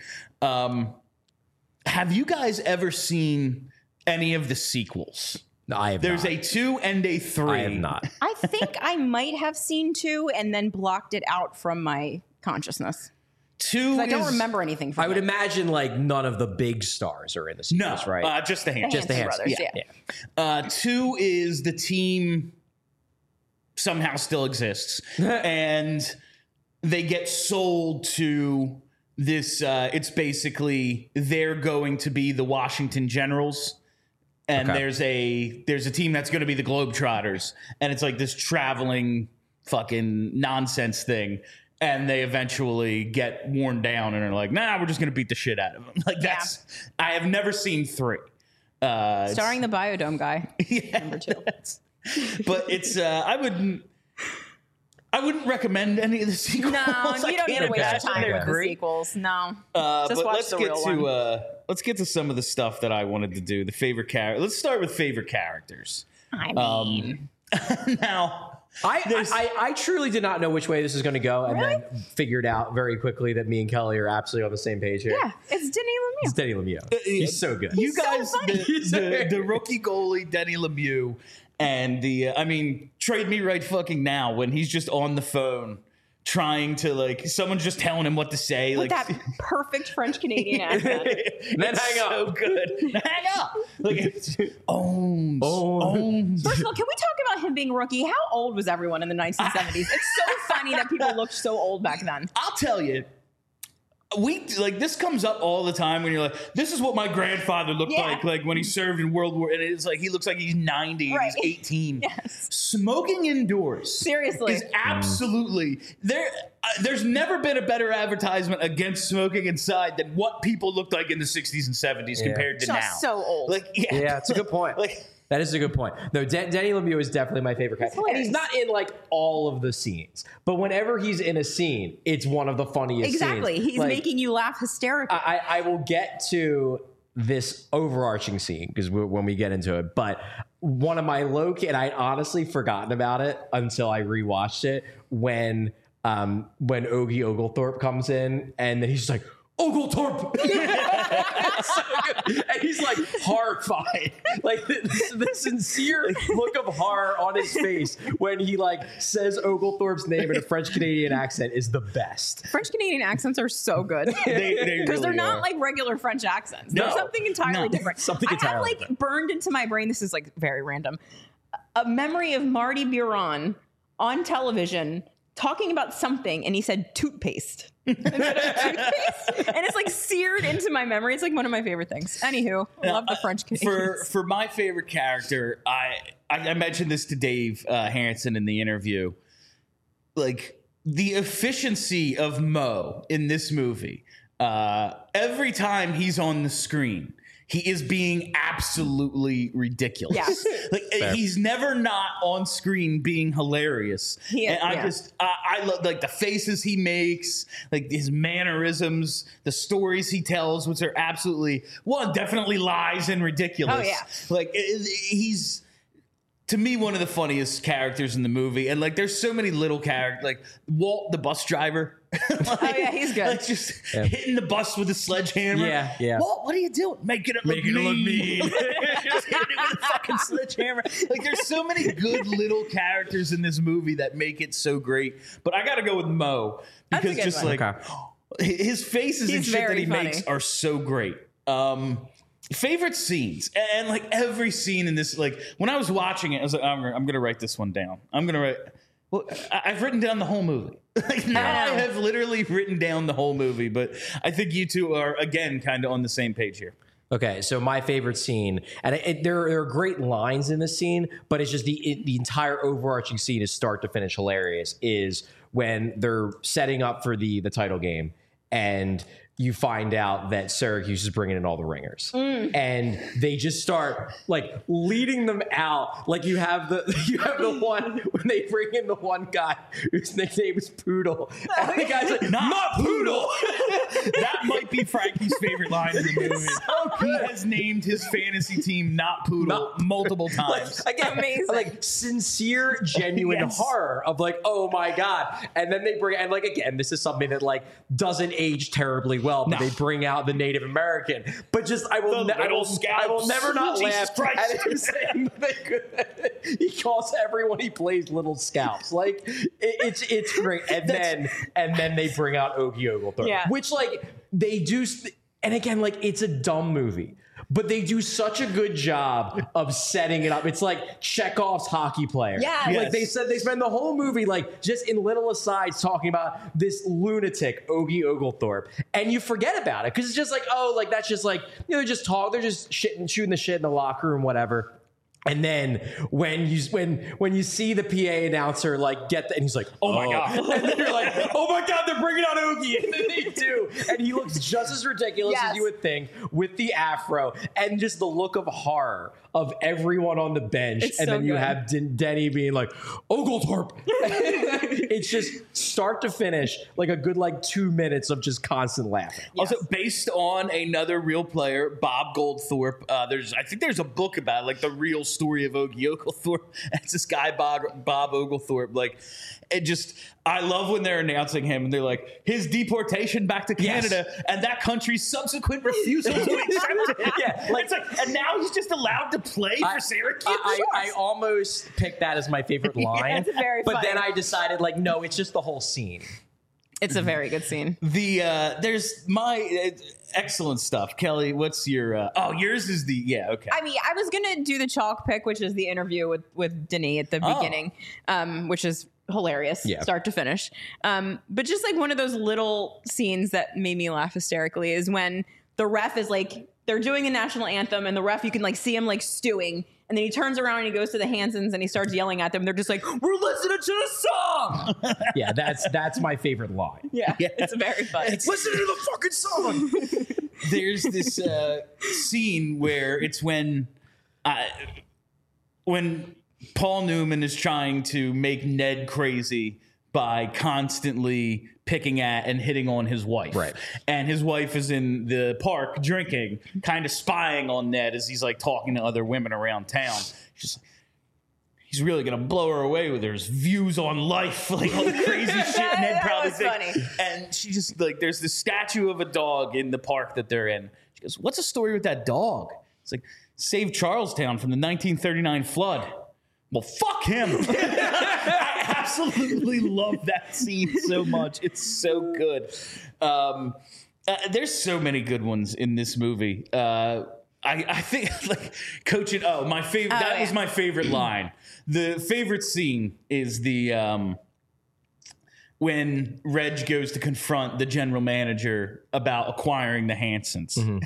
Have you guys ever seen any of the sequels? No, I have There's not. a 2 and a 3. I have not. I think I might have seen 2 and then blocked it out from my consciousness. 2 I don't remember anything from I would it. imagine like none of the big stars are in the sequels, right? Just the Hanson. Just the Hanson Hanson. brothers, Yeah. 2 is the team somehow still exists. And they get sold to this. It's basically they're going to be the Washington Generals. And there's a team that's going to be the Globetrotters. And it's like this traveling fucking nonsense thing. And they eventually get worn down and are like, nah, we're just going to beat the shit out of them. Like that's, I have never seen 3. Starring the Biodome guy. Number 2. But it's I wouldn't recommend any of the sequels. No, you don't need to waste your time They're with the great. sequels. No. But Just watch let's the get real to one. let's get to some of the stuff that I wanted to do. The favorite character. Let's start with favorite characters. I mean, Now, I truly did not know which way this is going to go, and then figured out very quickly that me and Kelly are absolutely on the same page here. yeah, it's Denny Lemieux. It's Denny Lemieux. He's so good. you so guys, funny. the rookie goalie Denny Lemieux, and trade me right fucking now when he's just on the phone trying to like someone's just telling him what to say, With like that perfect French Canadian accent. Then hang up. So good. Hang up. Like owns. First of all, can we talk about him being a rookie? How old was everyone in the 1970s? It's so funny that people looked so old back then. I'll tell you, this comes up all the time when you're like, this is what my grandfather looked like when he served in World War, and it's like he looks like he's 90 and he's 18. Yes. Smoking indoors, Seriously. is absolutely there. There's never been a better advertisement against smoking inside than what people looked like in the 60s and 70s compared to So- now. so old. Yeah, it's a good point. That is a good point. No, Denny Lemieux is definitely my favorite character. And he's not in like all of the scenes, but whenever he's in a scene, it's one of the funniest Exactly. scenes. He's Like, making you laugh hysterically. I will get to this overarching scene, because when we get into it, but one of my low-key, and I'd honestly forgotten about it until I rewatched it, when Ogie Oglethorpe comes in and then he's just like, Oglethorpe! So good. And he's like horrified. Like the sincere look of horror on his face when he like says Oglethorpe's name in a French Canadian accent is the best. French Canadian accents are so good because They they're really not are. like regular French accents. No. They're something entirely No. different. Something I have entirely like different. burned into my brain. This is like very random. A memory of Marty Biron on television talking about something, and he said toothpaste. Instead of toothpaste. And it's like seared into my memory. It's like one of my favorite things. Anywho, I love the French Canadians. For my favorite character, I mentioned this to Dave Harrison in the interview. Like the efficiency of Mo in this movie, every time he's on the screen, he is being absolutely ridiculous. Yeah. Like he's never not on screen being hilarious. And I love like the faces he makes, like his mannerisms, the stories he tells, which are absolutely definitely lies and ridiculous. Oh, yeah. Like he's, to me, one of the funniest characters in the movie. And like there's so many little characters, like Walt the bus driver. Oh yeah, he's good. Like just hitting the bus with a sledgehammer. Yeah. Walt, what are you doing? Making it look mean. Just hitting it with a fucking sledgehammer. Like there's so many good little characters in this movie that make it so great. But I got to go with Mo That's a because good just one. like his faces and He's shit that very he funny. makes are so great. Favorite scenes, and like every scene in this, like when I was watching it, I was like, I'm gonna write this one down. Well, I've written down the whole movie. Like now I have literally written down the whole movie, but I think you two are again kind of on the same page here. Okay, so my favorite scene, and there are great lines in this scene, but it's just the entire overarching scene is start to finish hilarious, is when they're setting up for the title game, and you find out that Syracuse is bringing in all the ringers, and they just start like leading them out. Like you have the one when they bring in the one guy whose nickname is Poodle, and the guy's like, "Not Poodle." That might be Frankie's favorite line in the movie. so good. He has named his fantasy team Not Poodle multiple times. Again, Amazing. like sincere, genuine Yes. horror of like, oh my god, and then they bring, and like again, this is something that like doesn't age terribly well, but No. they bring out the Native American. But just I will never not Jesus laugh Christ. at him saying that he calls everyone he plays little scalps. Like it's great, and then they bring out Ogie Oglethorpe, Yeah. which like they do, and again like it's a dumb movie. But they do such a good job of setting it up. It's like Chekhov's hockey player. Yeah. Like Yes. they said, they spend the whole movie like just in little asides talking about this lunatic Ogie Oglethorpe, and you forget about it because it's just like, oh, like that's just like, you know, they're just shooting the shit in the locker room, whatever. And then when you see the PA announcer like get and he's like, oh my god, and then you're like, oh my god, they're bringing out Ogie, and then they do, and he looks just as ridiculous as Yes. you would think with the afro and just the look of horror of everyone on the bench, It's and so then you good. have Denny being like Oglethorpe. It's just start to finish like a good like 2 minutes of just constant laughing. Also, based on another real player, Bob Goldthorpe. I think there's a book about it, like the real story of Ogie Oglethorpe. It's this guy Bob Oglethorpe. Like, I love when they're announcing him and they're like his deportation back to Canada and that country's subsequent refusal to accept it. Yeah, like- it's like, and now he's just allowed to play for Syracuse. I almost picked that as my favorite line, it's very but funny. then I decided like no, it's just the whole scene. It's a very good scene. There's my excellent stuff. Kelly, what's your? Yours is okay. I mean, I was gonna do the chalk pick, which is the interview with Denis at the beginning, which is hilarious, start to finish. But just like one of those little scenes that made me laugh hysterically is when the ref is like, they're doing the national anthem, and the ref, you can like see him like stewing, and then he turns around and he goes to the Hansons and he starts yelling at them. They're just like, "We're listening to the song." Yeah, that's my favorite line. Yeah, it's very funny. Listen to the fucking song. There's this scene where it's when Paul Newman is trying to make Ned crazy by constantly picking at and hitting on his wife. Right. And his wife is in the park drinking, kind of spying on Ned as he's like talking to other women around town. She's like, he's really gonna blow her away with his views on life, like all the crazy shit Ned probably was thinks. funny. And she just like, there's this statue of a dog in the park that they're in. She goes, "What's the story with that dog?" It's like, "Saved Charlestown from the 1939 flood." Well, fuck him. I absolutely love that scene so much. It's so good. There's so many good ones in this movie. I think like coaching. Oh, my favorite. That was my favorite line. The favorite scene is the when Reg goes to confront the general manager about acquiring the Hansons. And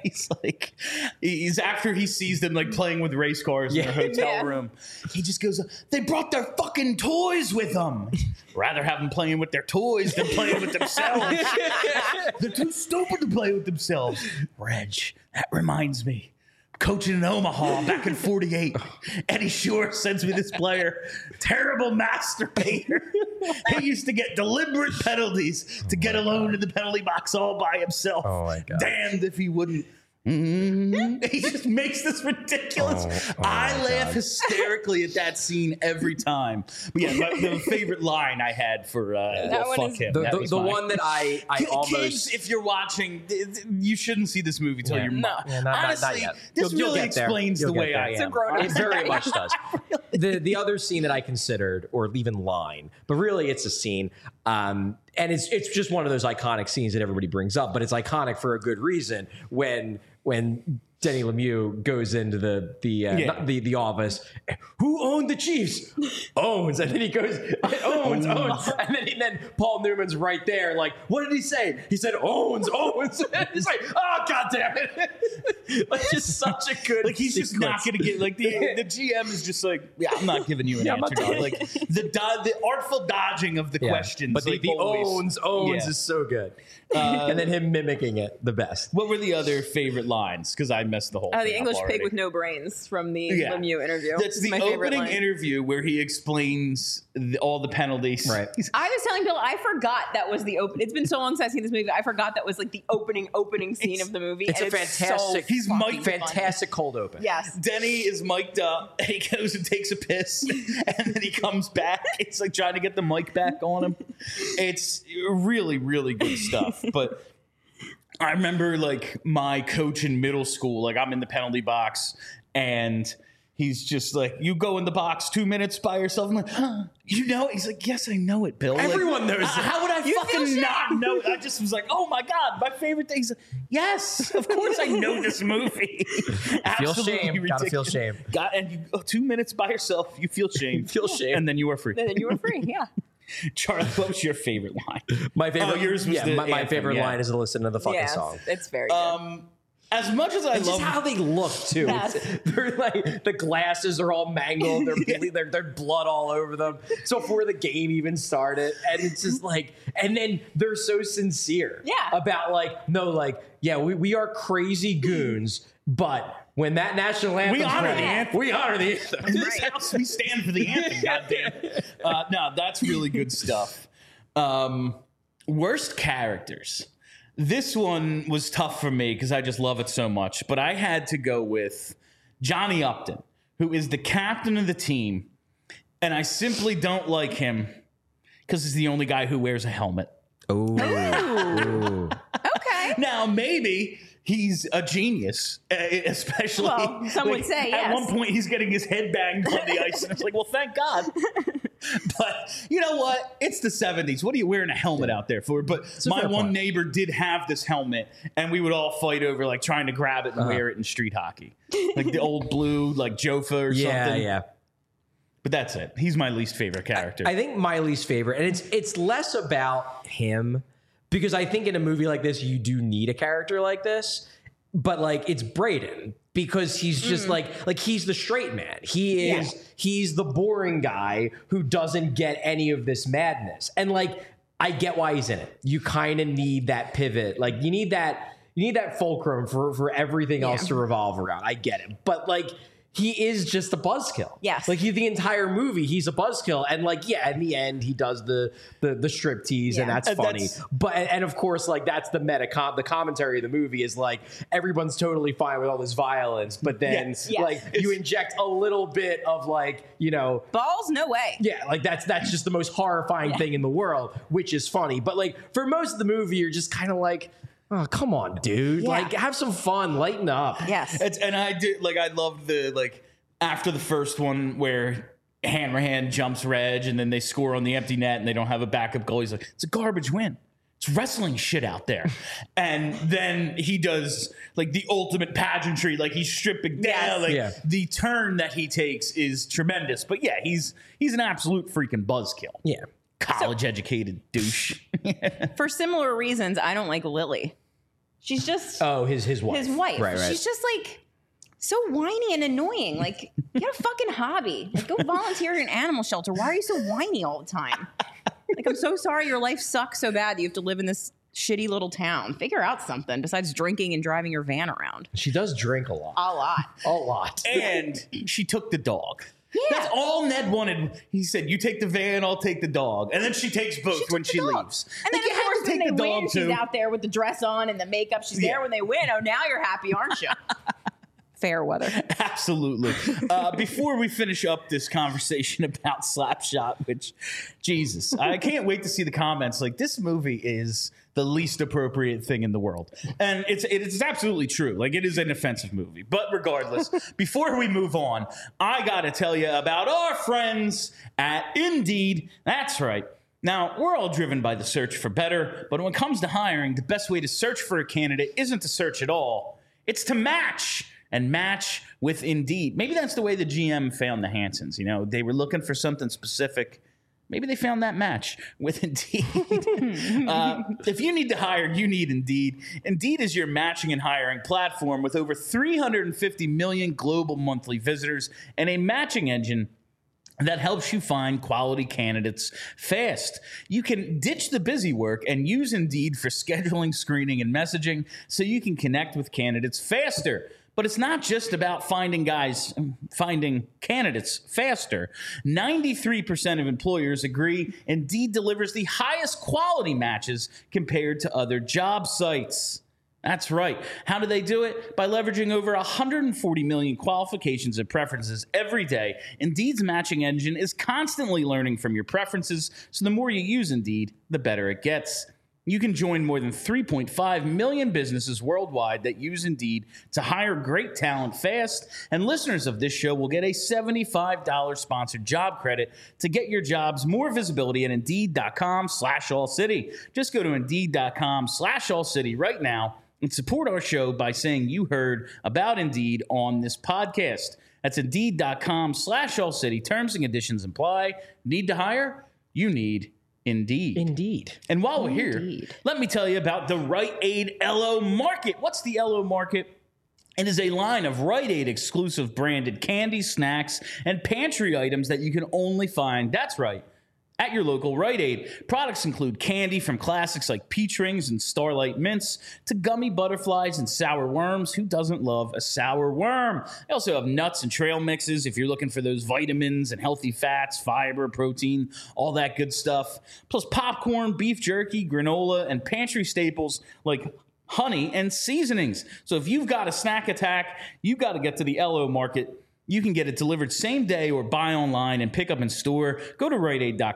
he's after he sees them like playing with race cars in their hotel room. He just goes, "They brought their fucking toys with them. Rather have them playing with their toys than playing with themselves. They're too stupid to play with themselves." Reg, that reminds me. Coaching in Omaha back in 48. Eddie Shore sends me this player. Terrible masturbator. He used to get deliberate penalties to get alone in the penalty box all by himself. Oh my God. Damned if he wouldn't. He just makes this ridiculous. I laugh hysterically at that scene every time. But yeah, the favorite line I had for fuck him. The one that I almost... Kids, if you're watching, you shouldn't see this movie till you're not honestly, yet. this You'll really get there. explains You'll the get way there. I It's am. It very much does. The other scene that I considered, or even line, but really it's a scene, and it's just one of those iconic scenes that everybody brings up, but it's iconic for a good reason. When Denny Lemieux goes into the office, "Who owned the Chiefs?" "Owns," and then he goes, "Owns," and then Paul Newman's right there, like, "What did he say?" He said, "Owns." He's like, "Oh, God damn it!" Like, just such a good. Like, he's just not going to get like the GM is just like, "Yeah, I'm not giving you an answer." Dog. Like the artful dodging of the questions, but like, the always, owns is so good, and then him mimicking it, the best. What were the other favorite lines? Because I messed the whole thing The English up pig already. with no brains from the Lemieux interview. That's the my favorite opening line. interview where he explains all the penalties. Right. I was telling Bill, I forgot that was the open. It's been so long since I've seen this movie. I forgot that was like the opening scene of the movie. It's and a fantastic. So He's fucking fantastic cold open. Yes. Denny is mic'd up, and he goes and takes a piss, and then he comes back. It's like trying to get the mic back on him. It's really, really good stuff. But I remember like my coach in middle school, like I'm in the penalty box, and he's just like, "You go in the box 2 minutes by yourself." I'm like, "You know?" He's like, "Yes, I know it, Bill." Everyone knows it. How would I fucking not know it? I just was like, "Oh my God, my favorite thing." He's like, "Yes, of course I know this movie." Feel shame. Gotta feel shame. And you go 2 minutes by yourself, you feel shame. Feel shame. And then you are free. And then you were free. Yeah. Charlie, what was your favorite line? My favorite. Yours was the my anthem, favorite yeah. line is to listen to the fucking Yeah. song. It's very good. As much as I It's love just how they look too. Yes. They're like the glasses are all mangled. They're blood all over them. So before the game even started, and it's just like, and then they're so sincere. Yeah. About like, no, like, yeah, we are crazy goons, but when that national anthem, We honor the anthem. We honor the anthem. in this house, we stand for the anthem. Goddamn. No, that's really good stuff. Worst characters. This one was tough for me because I just love it so much. But I had to go with Johnny Upton, who is the captain of the team. And I simply don't like him because he's the only guy who wears a helmet. Ooh. Okay. Now, maybe he's a genius, especially. Well, some would say, At yes. one point, he's getting his head banged on the ice, and it's like, well, thank God. But you know what? It's the 70s. What are you wearing a helmet out there for? But my fair one point. neighbor did have this helmet, and we would all fight over like trying to grab it and wear it in street hockey, like the old blue, like Jofa or something. Yeah. But that's it. He's my least favorite character. I think my least favorite, and it's less about him, because I think in a movie like this you do need a character like this, but like it's Braden, because he's just like he's the straight man. He's the boring guy who doesn't get any of this madness, and like I get why he's in it. You kind of need that pivot, like you need that fulcrum for everything else to revolve around. I get it, but like he is just a buzzkill. Yes. Like the entire movie, he's a buzzkill. And like, yeah, in the end, he does the striptease and that's funny. And of course, like that's the the commentary of the movie is like, everyone's totally fine with all this violence. But then like you inject a little bit of like, you know. Balls? No way. Yeah, like that's just the most horrifying thing in the world, which is funny. But like for most of the movie, you're just kind of like, oh, come on, dude. Yeah. Like, have some fun. Lighten up. Yes. And I did, like, I loved the, like, after the first one where Hanrahan jumps Reg and then they score on the empty net and they don't have a backup goal. He's like, it's a garbage win. It's wrestling shit out there. And then he does, like, the ultimate pageantry. Like, he's stripping down. Like, the turn that he takes is tremendous. But, yeah, he's an absolute freaking buzzkill. Yeah. College-educated douche. For similar reasons, I don't like Lily. She's just his wife. His wife. Right. She's just like so whiny and annoying. Like, get a fucking hobby. Like, go volunteer at an animal shelter. Why are you so whiny all the time? Like, I'm so sorry your life sucks so bad that you have to live in this shitty little town. Figure out something besides drinking and driving your van around. She does drink a lot. A lot. A lot. And she took the dog. Yeah. That's all Ned wanted. He said, you take the van, I'll take the dog. And then she takes both when she leaves. And then, like, of course, when they win, she's too. out there with the dress on and the makeup. She's there when they win. Oh, now you're happy, aren't you? Fair weather. Absolutely. Before we finish up this conversation about Slapshot, which, Jesus, I can't wait to see the comments. Like, this movie is the least appropriate thing in the world. And it's absolutely true. Like, it is an offensive movie. But regardless, before we move on, I got to tell you about our friends at Indeed. That's right. Now, we're all driven by the search for better, but when it comes to hiring, the best way to search for a candidate isn't to search at all. It's to match. And match with Indeed. Maybe that's the way the GM found the Hansons. You know, they were looking for something specific. Maybe they found that match with Indeed. If you need to hire, you need Indeed. Indeed is your matching and hiring platform with over 350 million global monthly visitors and a matching engine that helps you find quality candidates fast. You can ditch the busy work and use Indeed for scheduling, screening, and messaging so you can connect with candidates faster. But it's not just about finding candidates faster. 93% of employers agree Indeed delivers the highest quality matches compared to other job sites. That's right. How do they do it? By leveraging over 140 million qualifications and preferences every day. Indeed's matching engine is constantly learning from your preferences, so the more you use Indeed, the better it gets. You can join more than 3.5 million businesses worldwide that use Indeed to hire great talent fast. And listeners of this show will get a $75 sponsored job credit to get your jobs more visibility at Indeed.com/AllCity. Just go to Indeed.com/AllCity right now and support our show by saying you heard about Indeed on this podcast. That's Indeed.com/AllCity. Terms and conditions apply. Need to hire? You need Indeed. Indeed. And while we're here, let me tell you about the Rite Aid LO Market. What's the LO Market? It is a line of Rite Aid exclusive branded candy, snacks, and pantry items that you can only find, that's right, at your local Rite Aid. Products include candy from classics like Peach Rings and Starlight Mints to gummy butterflies and sour worms. Who doesn't love a sour worm? They also have nuts and trail mixes if you're looking for those vitamins and healthy fats, fiber, protein, all that good stuff. Plus popcorn, beef jerky, granola, and pantry staples like honey and seasonings. So if you've got a snack attack, you've got to get to the LO Market. You can get it delivered same day or buy online and pick up in store. Go to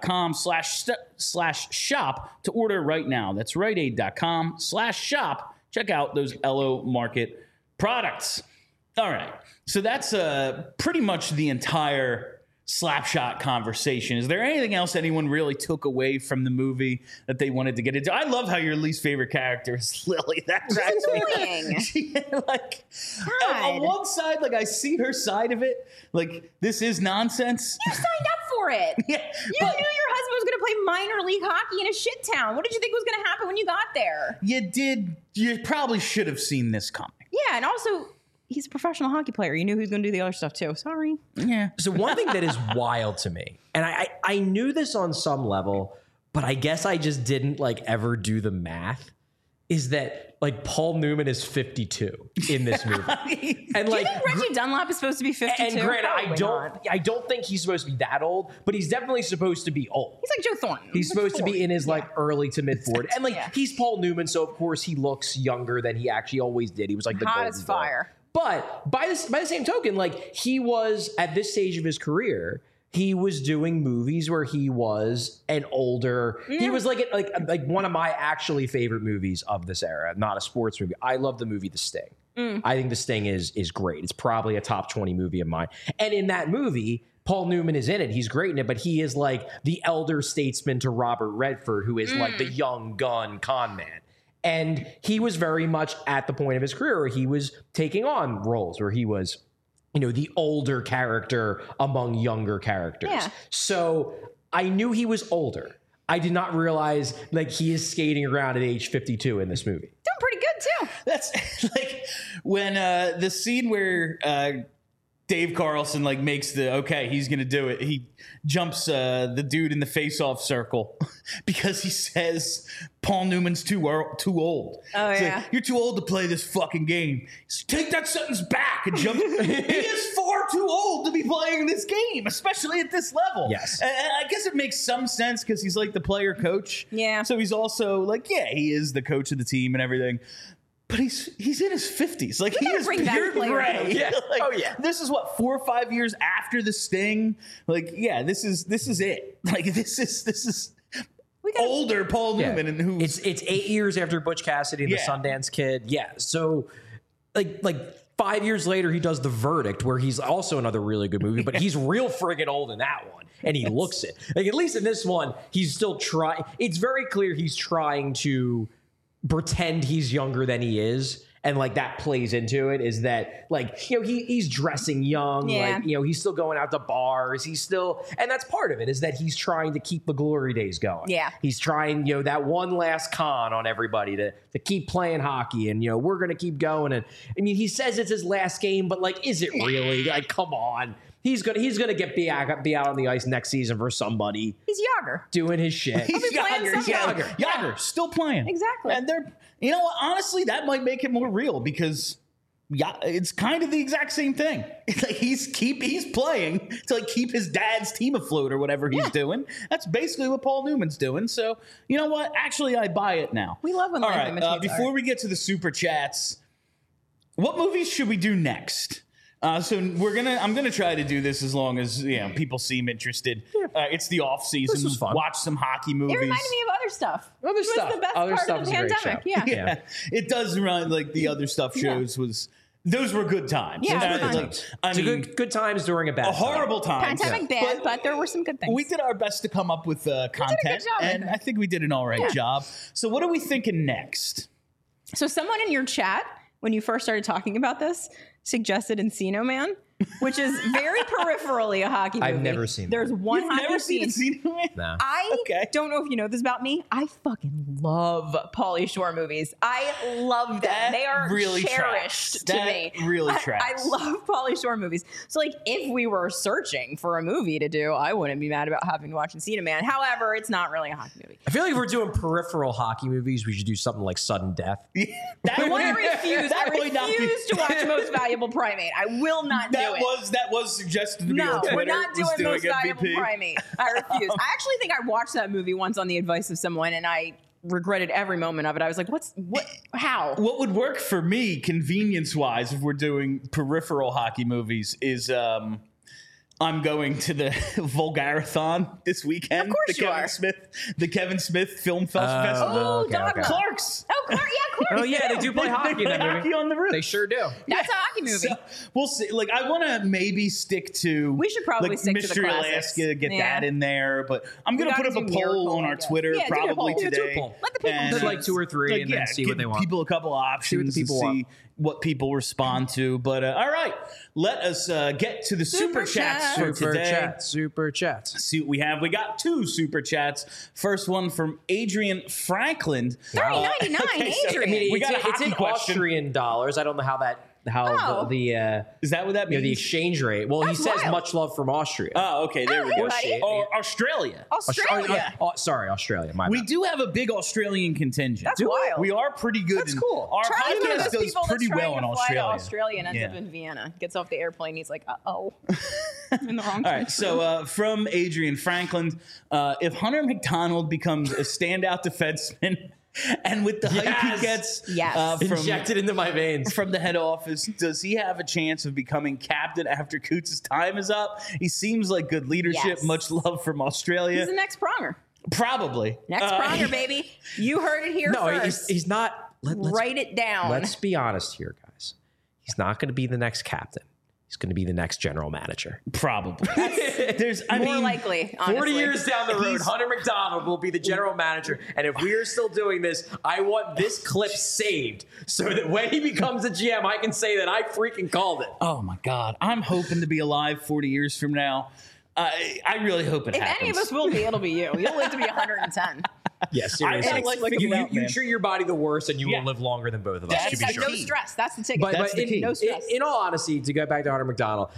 RiteAid.com/shop to order right now. That's RiteAid.com/shop. Check out those LO Market products. All right. So that's pretty much the entire Slapshot conversation. Is there anything else anyone really took away from the movie that they wanted to get into? I love how your least favorite character is Lily. That's annoying. Like, on one side, like I see her side of it. Like, this is nonsense. You signed up for it. Yeah, you knew your husband was going to play minor league hockey in a shit town. What did you think was going to happen when you got there? You did. You probably should have seen this coming. Yeah, and also, he's a professional hockey player. You knew he was going to do the other stuff too. Sorry. Yeah. So one thing that is wild to me, and I knew this on some level, but I guess I just didn't like ever do the math, is that like Paul Newman is 52 in this movie. And Do like you think Reggie Dunlap is supposed to be 52? and granted, Probably I not. don't think he's supposed to be that old, but he's definitely supposed to be old. He's like Joe Thornton. He's supposed to be in his like early to mid 40s. And like Yeah. he's Paul Newman, so of course he looks younger than he actually always did. He was like the Hot golden as boy. fire. But by the same token, like he was at this stage of his career, he was doing movies where he was an older. He was like one of my actually favorite movies of this era. Not a sports movie. I love the movie The Sting. I think The Sting is great. It's probably a top 20 movie of mine. And in that movie, Paul Newman is in it. He's great in it, but he is like the elder statesman to Robert Redford, who is like the young gun con man. And he was very much at the point of his career where he was taking on roles where he was, you know, the older character among younger characters. Yeah. So I knew he was older. I did not realize like he is skating around at age 52 in this movie. Doing pretty good too. That's like when the scene where Dave Carlson like makes he's gonna do it. He jumps the dude in the face-off circle because he says Paul Newman's too old. Oh, It's yeah. like, you're too old to play this fucking game. He's, take that sentence back and jump. He is far too old to be playing this game, especially at this level. Yes. And I guess it makes some sense because he's like the player coach. Yeah. So he's also like, he is the coach of the team and everything. But he's in his 50s. Like, he gotta is bring back pure player gray. coach. Yeah. Like, Oh, yeah. This is what 4 or 5 years after the Sting. Like, this is it. Like, this is We got older Paul Newman, and who's It's 8 years after Butch Cassidy and Yeah. the Sundance Kid. Yeah. So like 5 years later, he does The Verdict, where he's also another really good movie, but he's real friggin' old in that one. And he looks it. Like, at least in this one, he's still trying. It's very clear he's trying to pretend he's younger than he is. And like that plays into it is that like, you know, he's dressing young, Yeah. like, you know, he's still going out to bars. He's still, and that's part of it is that he's trying to keep the glory days going. Yeah. He's trying, you know, that one last con on everybody to keep playing hockey and, you know, we're going to keep going. And I mean, he says it's his last game, but like, is it really? Like, come on. He's gonna be out on the ice next season for somebody He's Yager. doing his shit. be playing Yager, somewhere. Yager, still playing. Exactly. And they're, you know what, honestly, that might make it more real because it's kind of the exact same thing. It's like he's playing to like keep his dad's team afloat or whatever he's doing. That's basically what Paul Newman's doing. So you know what? Actually, I buy it now. We love when All life right. imitates Before art. we get to the super chats, what movies should we do next? So I'm gonna try to do this as long as people seem interested. It's the off season. This was fun. Watch some hockey movies. It reminded me of other stuff. Other It was stuff. the best Other part stuff of is the a great pandemic. show. Yeah. Yeah, it does remind like the other stuff shows was those were good times. Yeah, And, it was like, fun. I It's mean, good times during a bad a horrible time. Pandemic bad, but there were some good things. We did our best to come up with content, job, I and think. I think we did an all right Yeah. job. So, what are we thinking next? So someone in your chat, when you first started talking about this, suggested Encino Man, which is very peripherally a hockey movie. I've never seen There's one You've hockey never seen scene. Encino Man? Nah. I Okay. don't know if you know this about me. I fucking love Pauly Shore movies. I love them. That They are really cherished tracks. to That me. really I tracks. love Pauly Shore movies. So, like, if we were searching for a movie to do, I wouldn't be mad about having to watch Encino Man. However, it's not really a hockey movie. I feel like if we're doing peripheral hockey movies, we should do something like Sudden Death. That I would- refuse. that I would not be- refuse to watch Most Valuable Primate. I will not do it. That was suggested to me No, on Twitter. we're not was doing Most Valuable MVP. Primate. I refuse. I actually think I watched that movie once on the advice of someone, and I regretted every moment of it. I was like, how? What would work for me, convenience-wise, if we're doing peripheral hockey movies, is I'm going to the Vulgarathon this weekend. Of course the you Kevin are. the Kevin Smith Film Festival. Oh, okay, Dogma. okay. Clark's. Oh, Clark, yeah, Clark. Oh yeah, they do play hockey in that movie. Hockey on the roof. They sure do. That's a hockey movie. So, we'll see. Like, I want to maybe stick to. We should probably like, stick to the Mystery classics. Alaska, get Yeah. that in there. But I'm We going to put gotta up a do poll Miracle, on I our guess. Twitter Yeah, do a probably poll. Yeah, do a today. poll. Let the people And, There's like 2 or 3 and then see what give they want. People a couple options people to want. see what people respond to. But all right, let us get to the super chats for today. Super chats. See what we have. We got 2 super chats. First one from Adrian Franklin. $3.99, Okay, so, Adrian. I mean, We got a it's hockey in question. Austrian dollars. I don't know how that how the Is that what that means? the exchange rate. Well, That's he says wild. much love from Austria. Oh, okay. There we hey, go. buddy. Or Australia. Australia. Sorry, Australia. My We bad. do have a big Australian contingent. That's wild. We are pretty good. That's cool. Our Charlie's one of podcast those does people pretty that's trying well in to fly to Australia. Australia and ends Yeah. up in Vienna. Gets off the airplane. He's like, uh-oh. I'm in the wrong All country. right, so from Adrian Franklin, if Hunter McDonald becomes a standout defenseman, and with the hype Yes. he gets Yes. from Injected into my veins. from the head office, does he have a chance of becoming captain after Coots' time is up? He seems like good leadership. Yes. Much love from Australia. He's the next Pronger. Probably. Next Pronger, baby. You heard it here No, first. he's not. Write it down. Let's be honest here, guys. He's not going to be the next captain. He's going to be the next general manager. Probably. There's, I More mean, likely, honestly. 40 years down the road, He's- Hunter McDonald will be the general manager. And if we are still doing this, I want this clip saved so that when he becomes a GM, I can say that I freaking called it. Oh my God, I'm hoping to be alive 40 years from now. I really hope it If happens. any of us will be, it'll be you. You'll live to be 110. Yeah, seriously. I like you, it out, you man. treat your body the worst, and you Yeah. will live longer than both of us. That's To He's be got sure. no stress. That's the ticket. But, That's but the key. No stress. in all honesty, to go back to Hunter McDonald,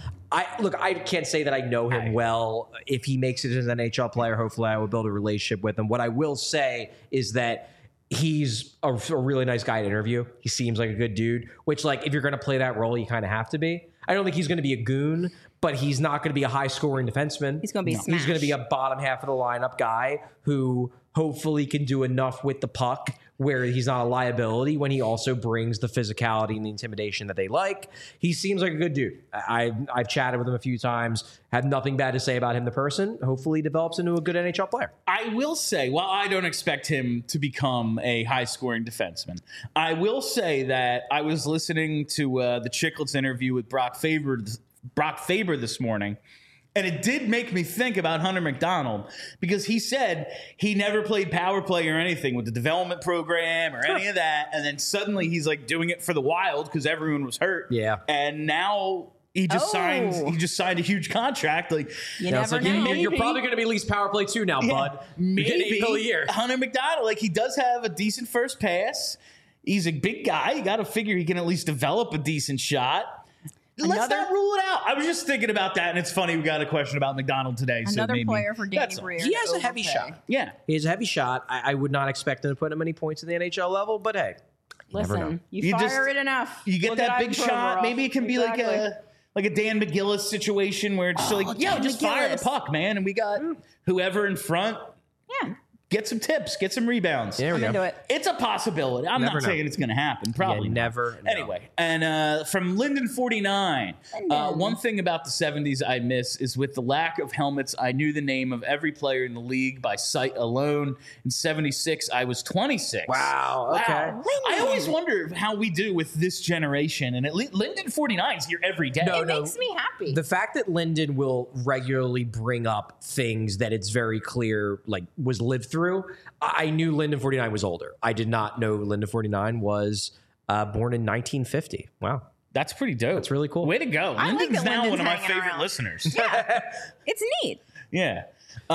I can't say that I know him well. If he makes it as an NHL player, hopefully I will build a relationship with him. What I will say is that he's a really nice guy to interview. He seems like a good dude, which, like, if you're going to play that role, you kind of have to be. I don't think he's going to be a goon, but he's not going to be a high-scoring defenseman. He's going to be He's going to smashed. be a bottom half of the lineup guy who hopefully can do enough with the puck where he's not a liability when he also brings the physicality and the intimidation that they like. He seems like a good dude. I've chatted with him a few times, had nothing bad to say about him, the person. Hopefully he develops into a good NHL player. I will say, while I don't expect him to become a high-scoring defenseman, I will say that I was listening to the Chicklets interview with Brock Faber this morning, and it did make me think about Hunter McDonald because he said he never played power play or anything with the development program or any of that, and then suddenly he's like doing it for the Wild because everyone was hurt. Yeah. And now he just signed a huge contract. Like, You Now, it's never like, know. you're probably going to be least power play too now, bud. You get maybe $8 million a year. Hunter McDonald, like, he does have a decent first pass. He's a big guy. You got to figure he can at least develop a decent shot. Let's Another- not rule it out. I was just thinking about that, and it's funny we got a question about McDonald today. so Another maybe player for Danny that's all. Briere. He has to a heavy overpay. shot. Yeah. He has a heavy shot. I would not expect him to put him any points in the NHL level, but hey, you never know. Listen, you You fire just- it enough. You get Look that at big Ivan shot. Provorov. Maybe it can be Exactly. like a Dan McGillis situation where it's just like, yo, Dan just fire the McGillis. puck, man. And we got whoever in front, Yeah, get some tips, get some rebounds. There we I'm go. into it. It's a possibility. I'm Never not know. saying it's going to happen. Probably You not. never know. Anyway, and from Linden 49, one thing about the 70s I miss is with the lack of helmets, I knew the name of every player in the league by sight alone. In 76, I was 26. Wow. Okay. I always wonder how we do with this generation. And Linden 49 is here every day. No, it makes me happy. The fact that Lyndon will regularly bring up things that it's very clear like was lived through. I knew Lyndon 49 was older. I did not know Lyndon 49 was born in 1950. Wow. That's pretty dope. That's really cool. Way to go. I like Linden's that now Linden's one of my hanging favorite around. listeners. It's neat. Yeah.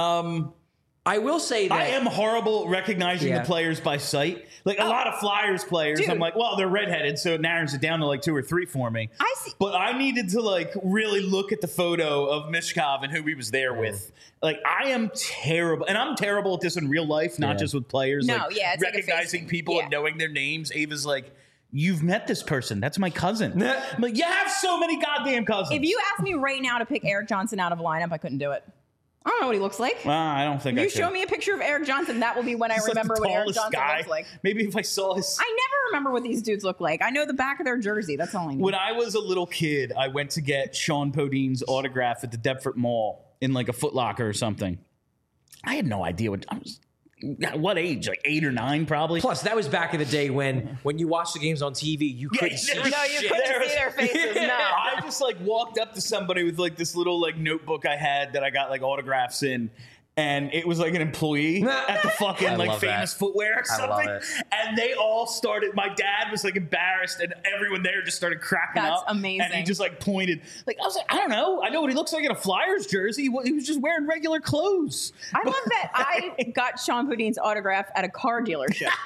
I will say that I am horrible recognizing Yeah. the players by sight. Like a lot of Flyers players, Dude. I'm like, well, they're redheaded, so it narrows it down to like 2 or 3 for me. I see. But I needed to like really look at the photo of Mishkov and who he was there with. Like I am terrible, and I'm terrible at this in real life, not Yeah. just with players. No, like, yeah, it's like a recognizing face- people yeah. and knowing their names. Ava's like, you've met this person. That's my cousin. I'm like, you have so many goddamn cousins. If you asked me right now to pick Eric Johnson out of a lineup, I couldn't do it. I don't know what he looks like. I don't think I You could. show me a picture of Eric Johnson, that will be when I He's like the remember what Eric tallest Johnson guy. looks like. Maybe if I saw his. I never remember what these dudes look like. I know the back of their jersey. That's all I know. When I was a little kid, I went to get Sean Podine's autograph at the Deptford Mall in like a Foot Locker or something. I had no idea what I was. At what age? Like 8 or 9, probably. plus that was back in the day when you watched the games on TV, you couldn't see there was no, you shit. couldn't There see their faces. No. I just like walked up to somebody with like this little like notebook I had that I got like autographs in. And it was like an employee at the fucking I like love famous that. footwear or I love something. it. And they all started, my dad was like embarrassed and everyone there just started cracking That's up. And he amazing. just like pointed. Like, I was like, I don't know. I know what he looks like in a Flyers jersey. He was just wearing regular clothes. I love that I got Sean Podine's autograph at a car dealership.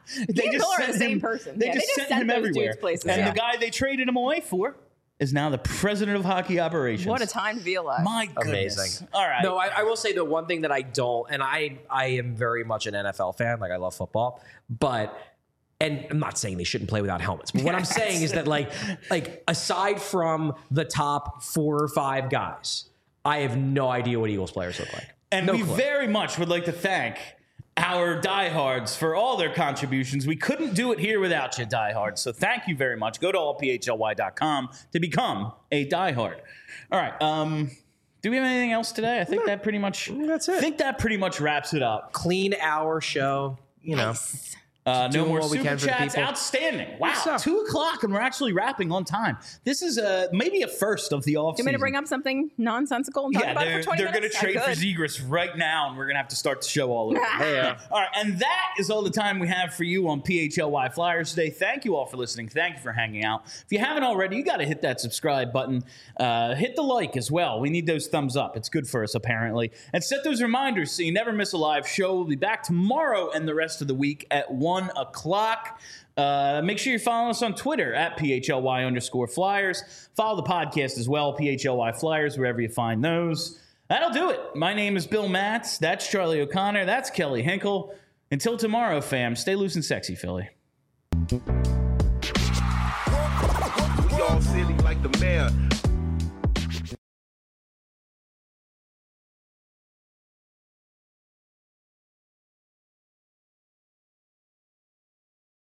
He and Miller are the same person. They just sent him those everywhere. dudes places. And the guy they traded him away for is now the president of hockey operations. What a time to be alive. My goodness. Amazing. All right. No, I will say the one thing that I don't, and I am very much an NFL fan. Like, I love football, and I'm not saying they shouldn't play without helmets, but what I'm saying is that like aside from the top 4 or 5 guys, I have no idea what Eagles players look like. And no we clue. very much would like to thank our diehards for all their contributions. We couldn't do it here without you, diehards. So thank you very much. Go to allphly.com to become a diehard. All right. Do we have anything else today? I think that pretty much. That's it. I think that pretty much wraps it up. Clean hour show. Nice. No Doing more what we super can for the chats. people. Outstanding. Wow. up? 2:00 and we're actually wrapping on time. This is maybe a first of the off Do you want me to bring up something nonsensical and talk about it for 20 they're going to minutes? trade I for could. Zegras right now, and we're going to have to start the show all over. Yeah. All right, and that is all the time we have for you on PHLY Flyers today. Thank you all for listening. Thank you for hanging out. If you haven't already, you got to hit that subscribe button. Hit the like as well. We need those thumbs up. It's good for us, apparently. And set those reminders so you never miss a live show. We'll be back tomorrow and the rest of the week at 1 o'clock. Make sure you're following us on Twitter at PHLY_Flyers. Follow the podcast as well, PHLY Flyers, wherever you find those. That'll do it. My name is Bill Matz. That's Charlie O'Connor. That's Kelly Hinkle. Until tomorrow, fam, stay loose and sexy, Philly. We all silly like the mayor.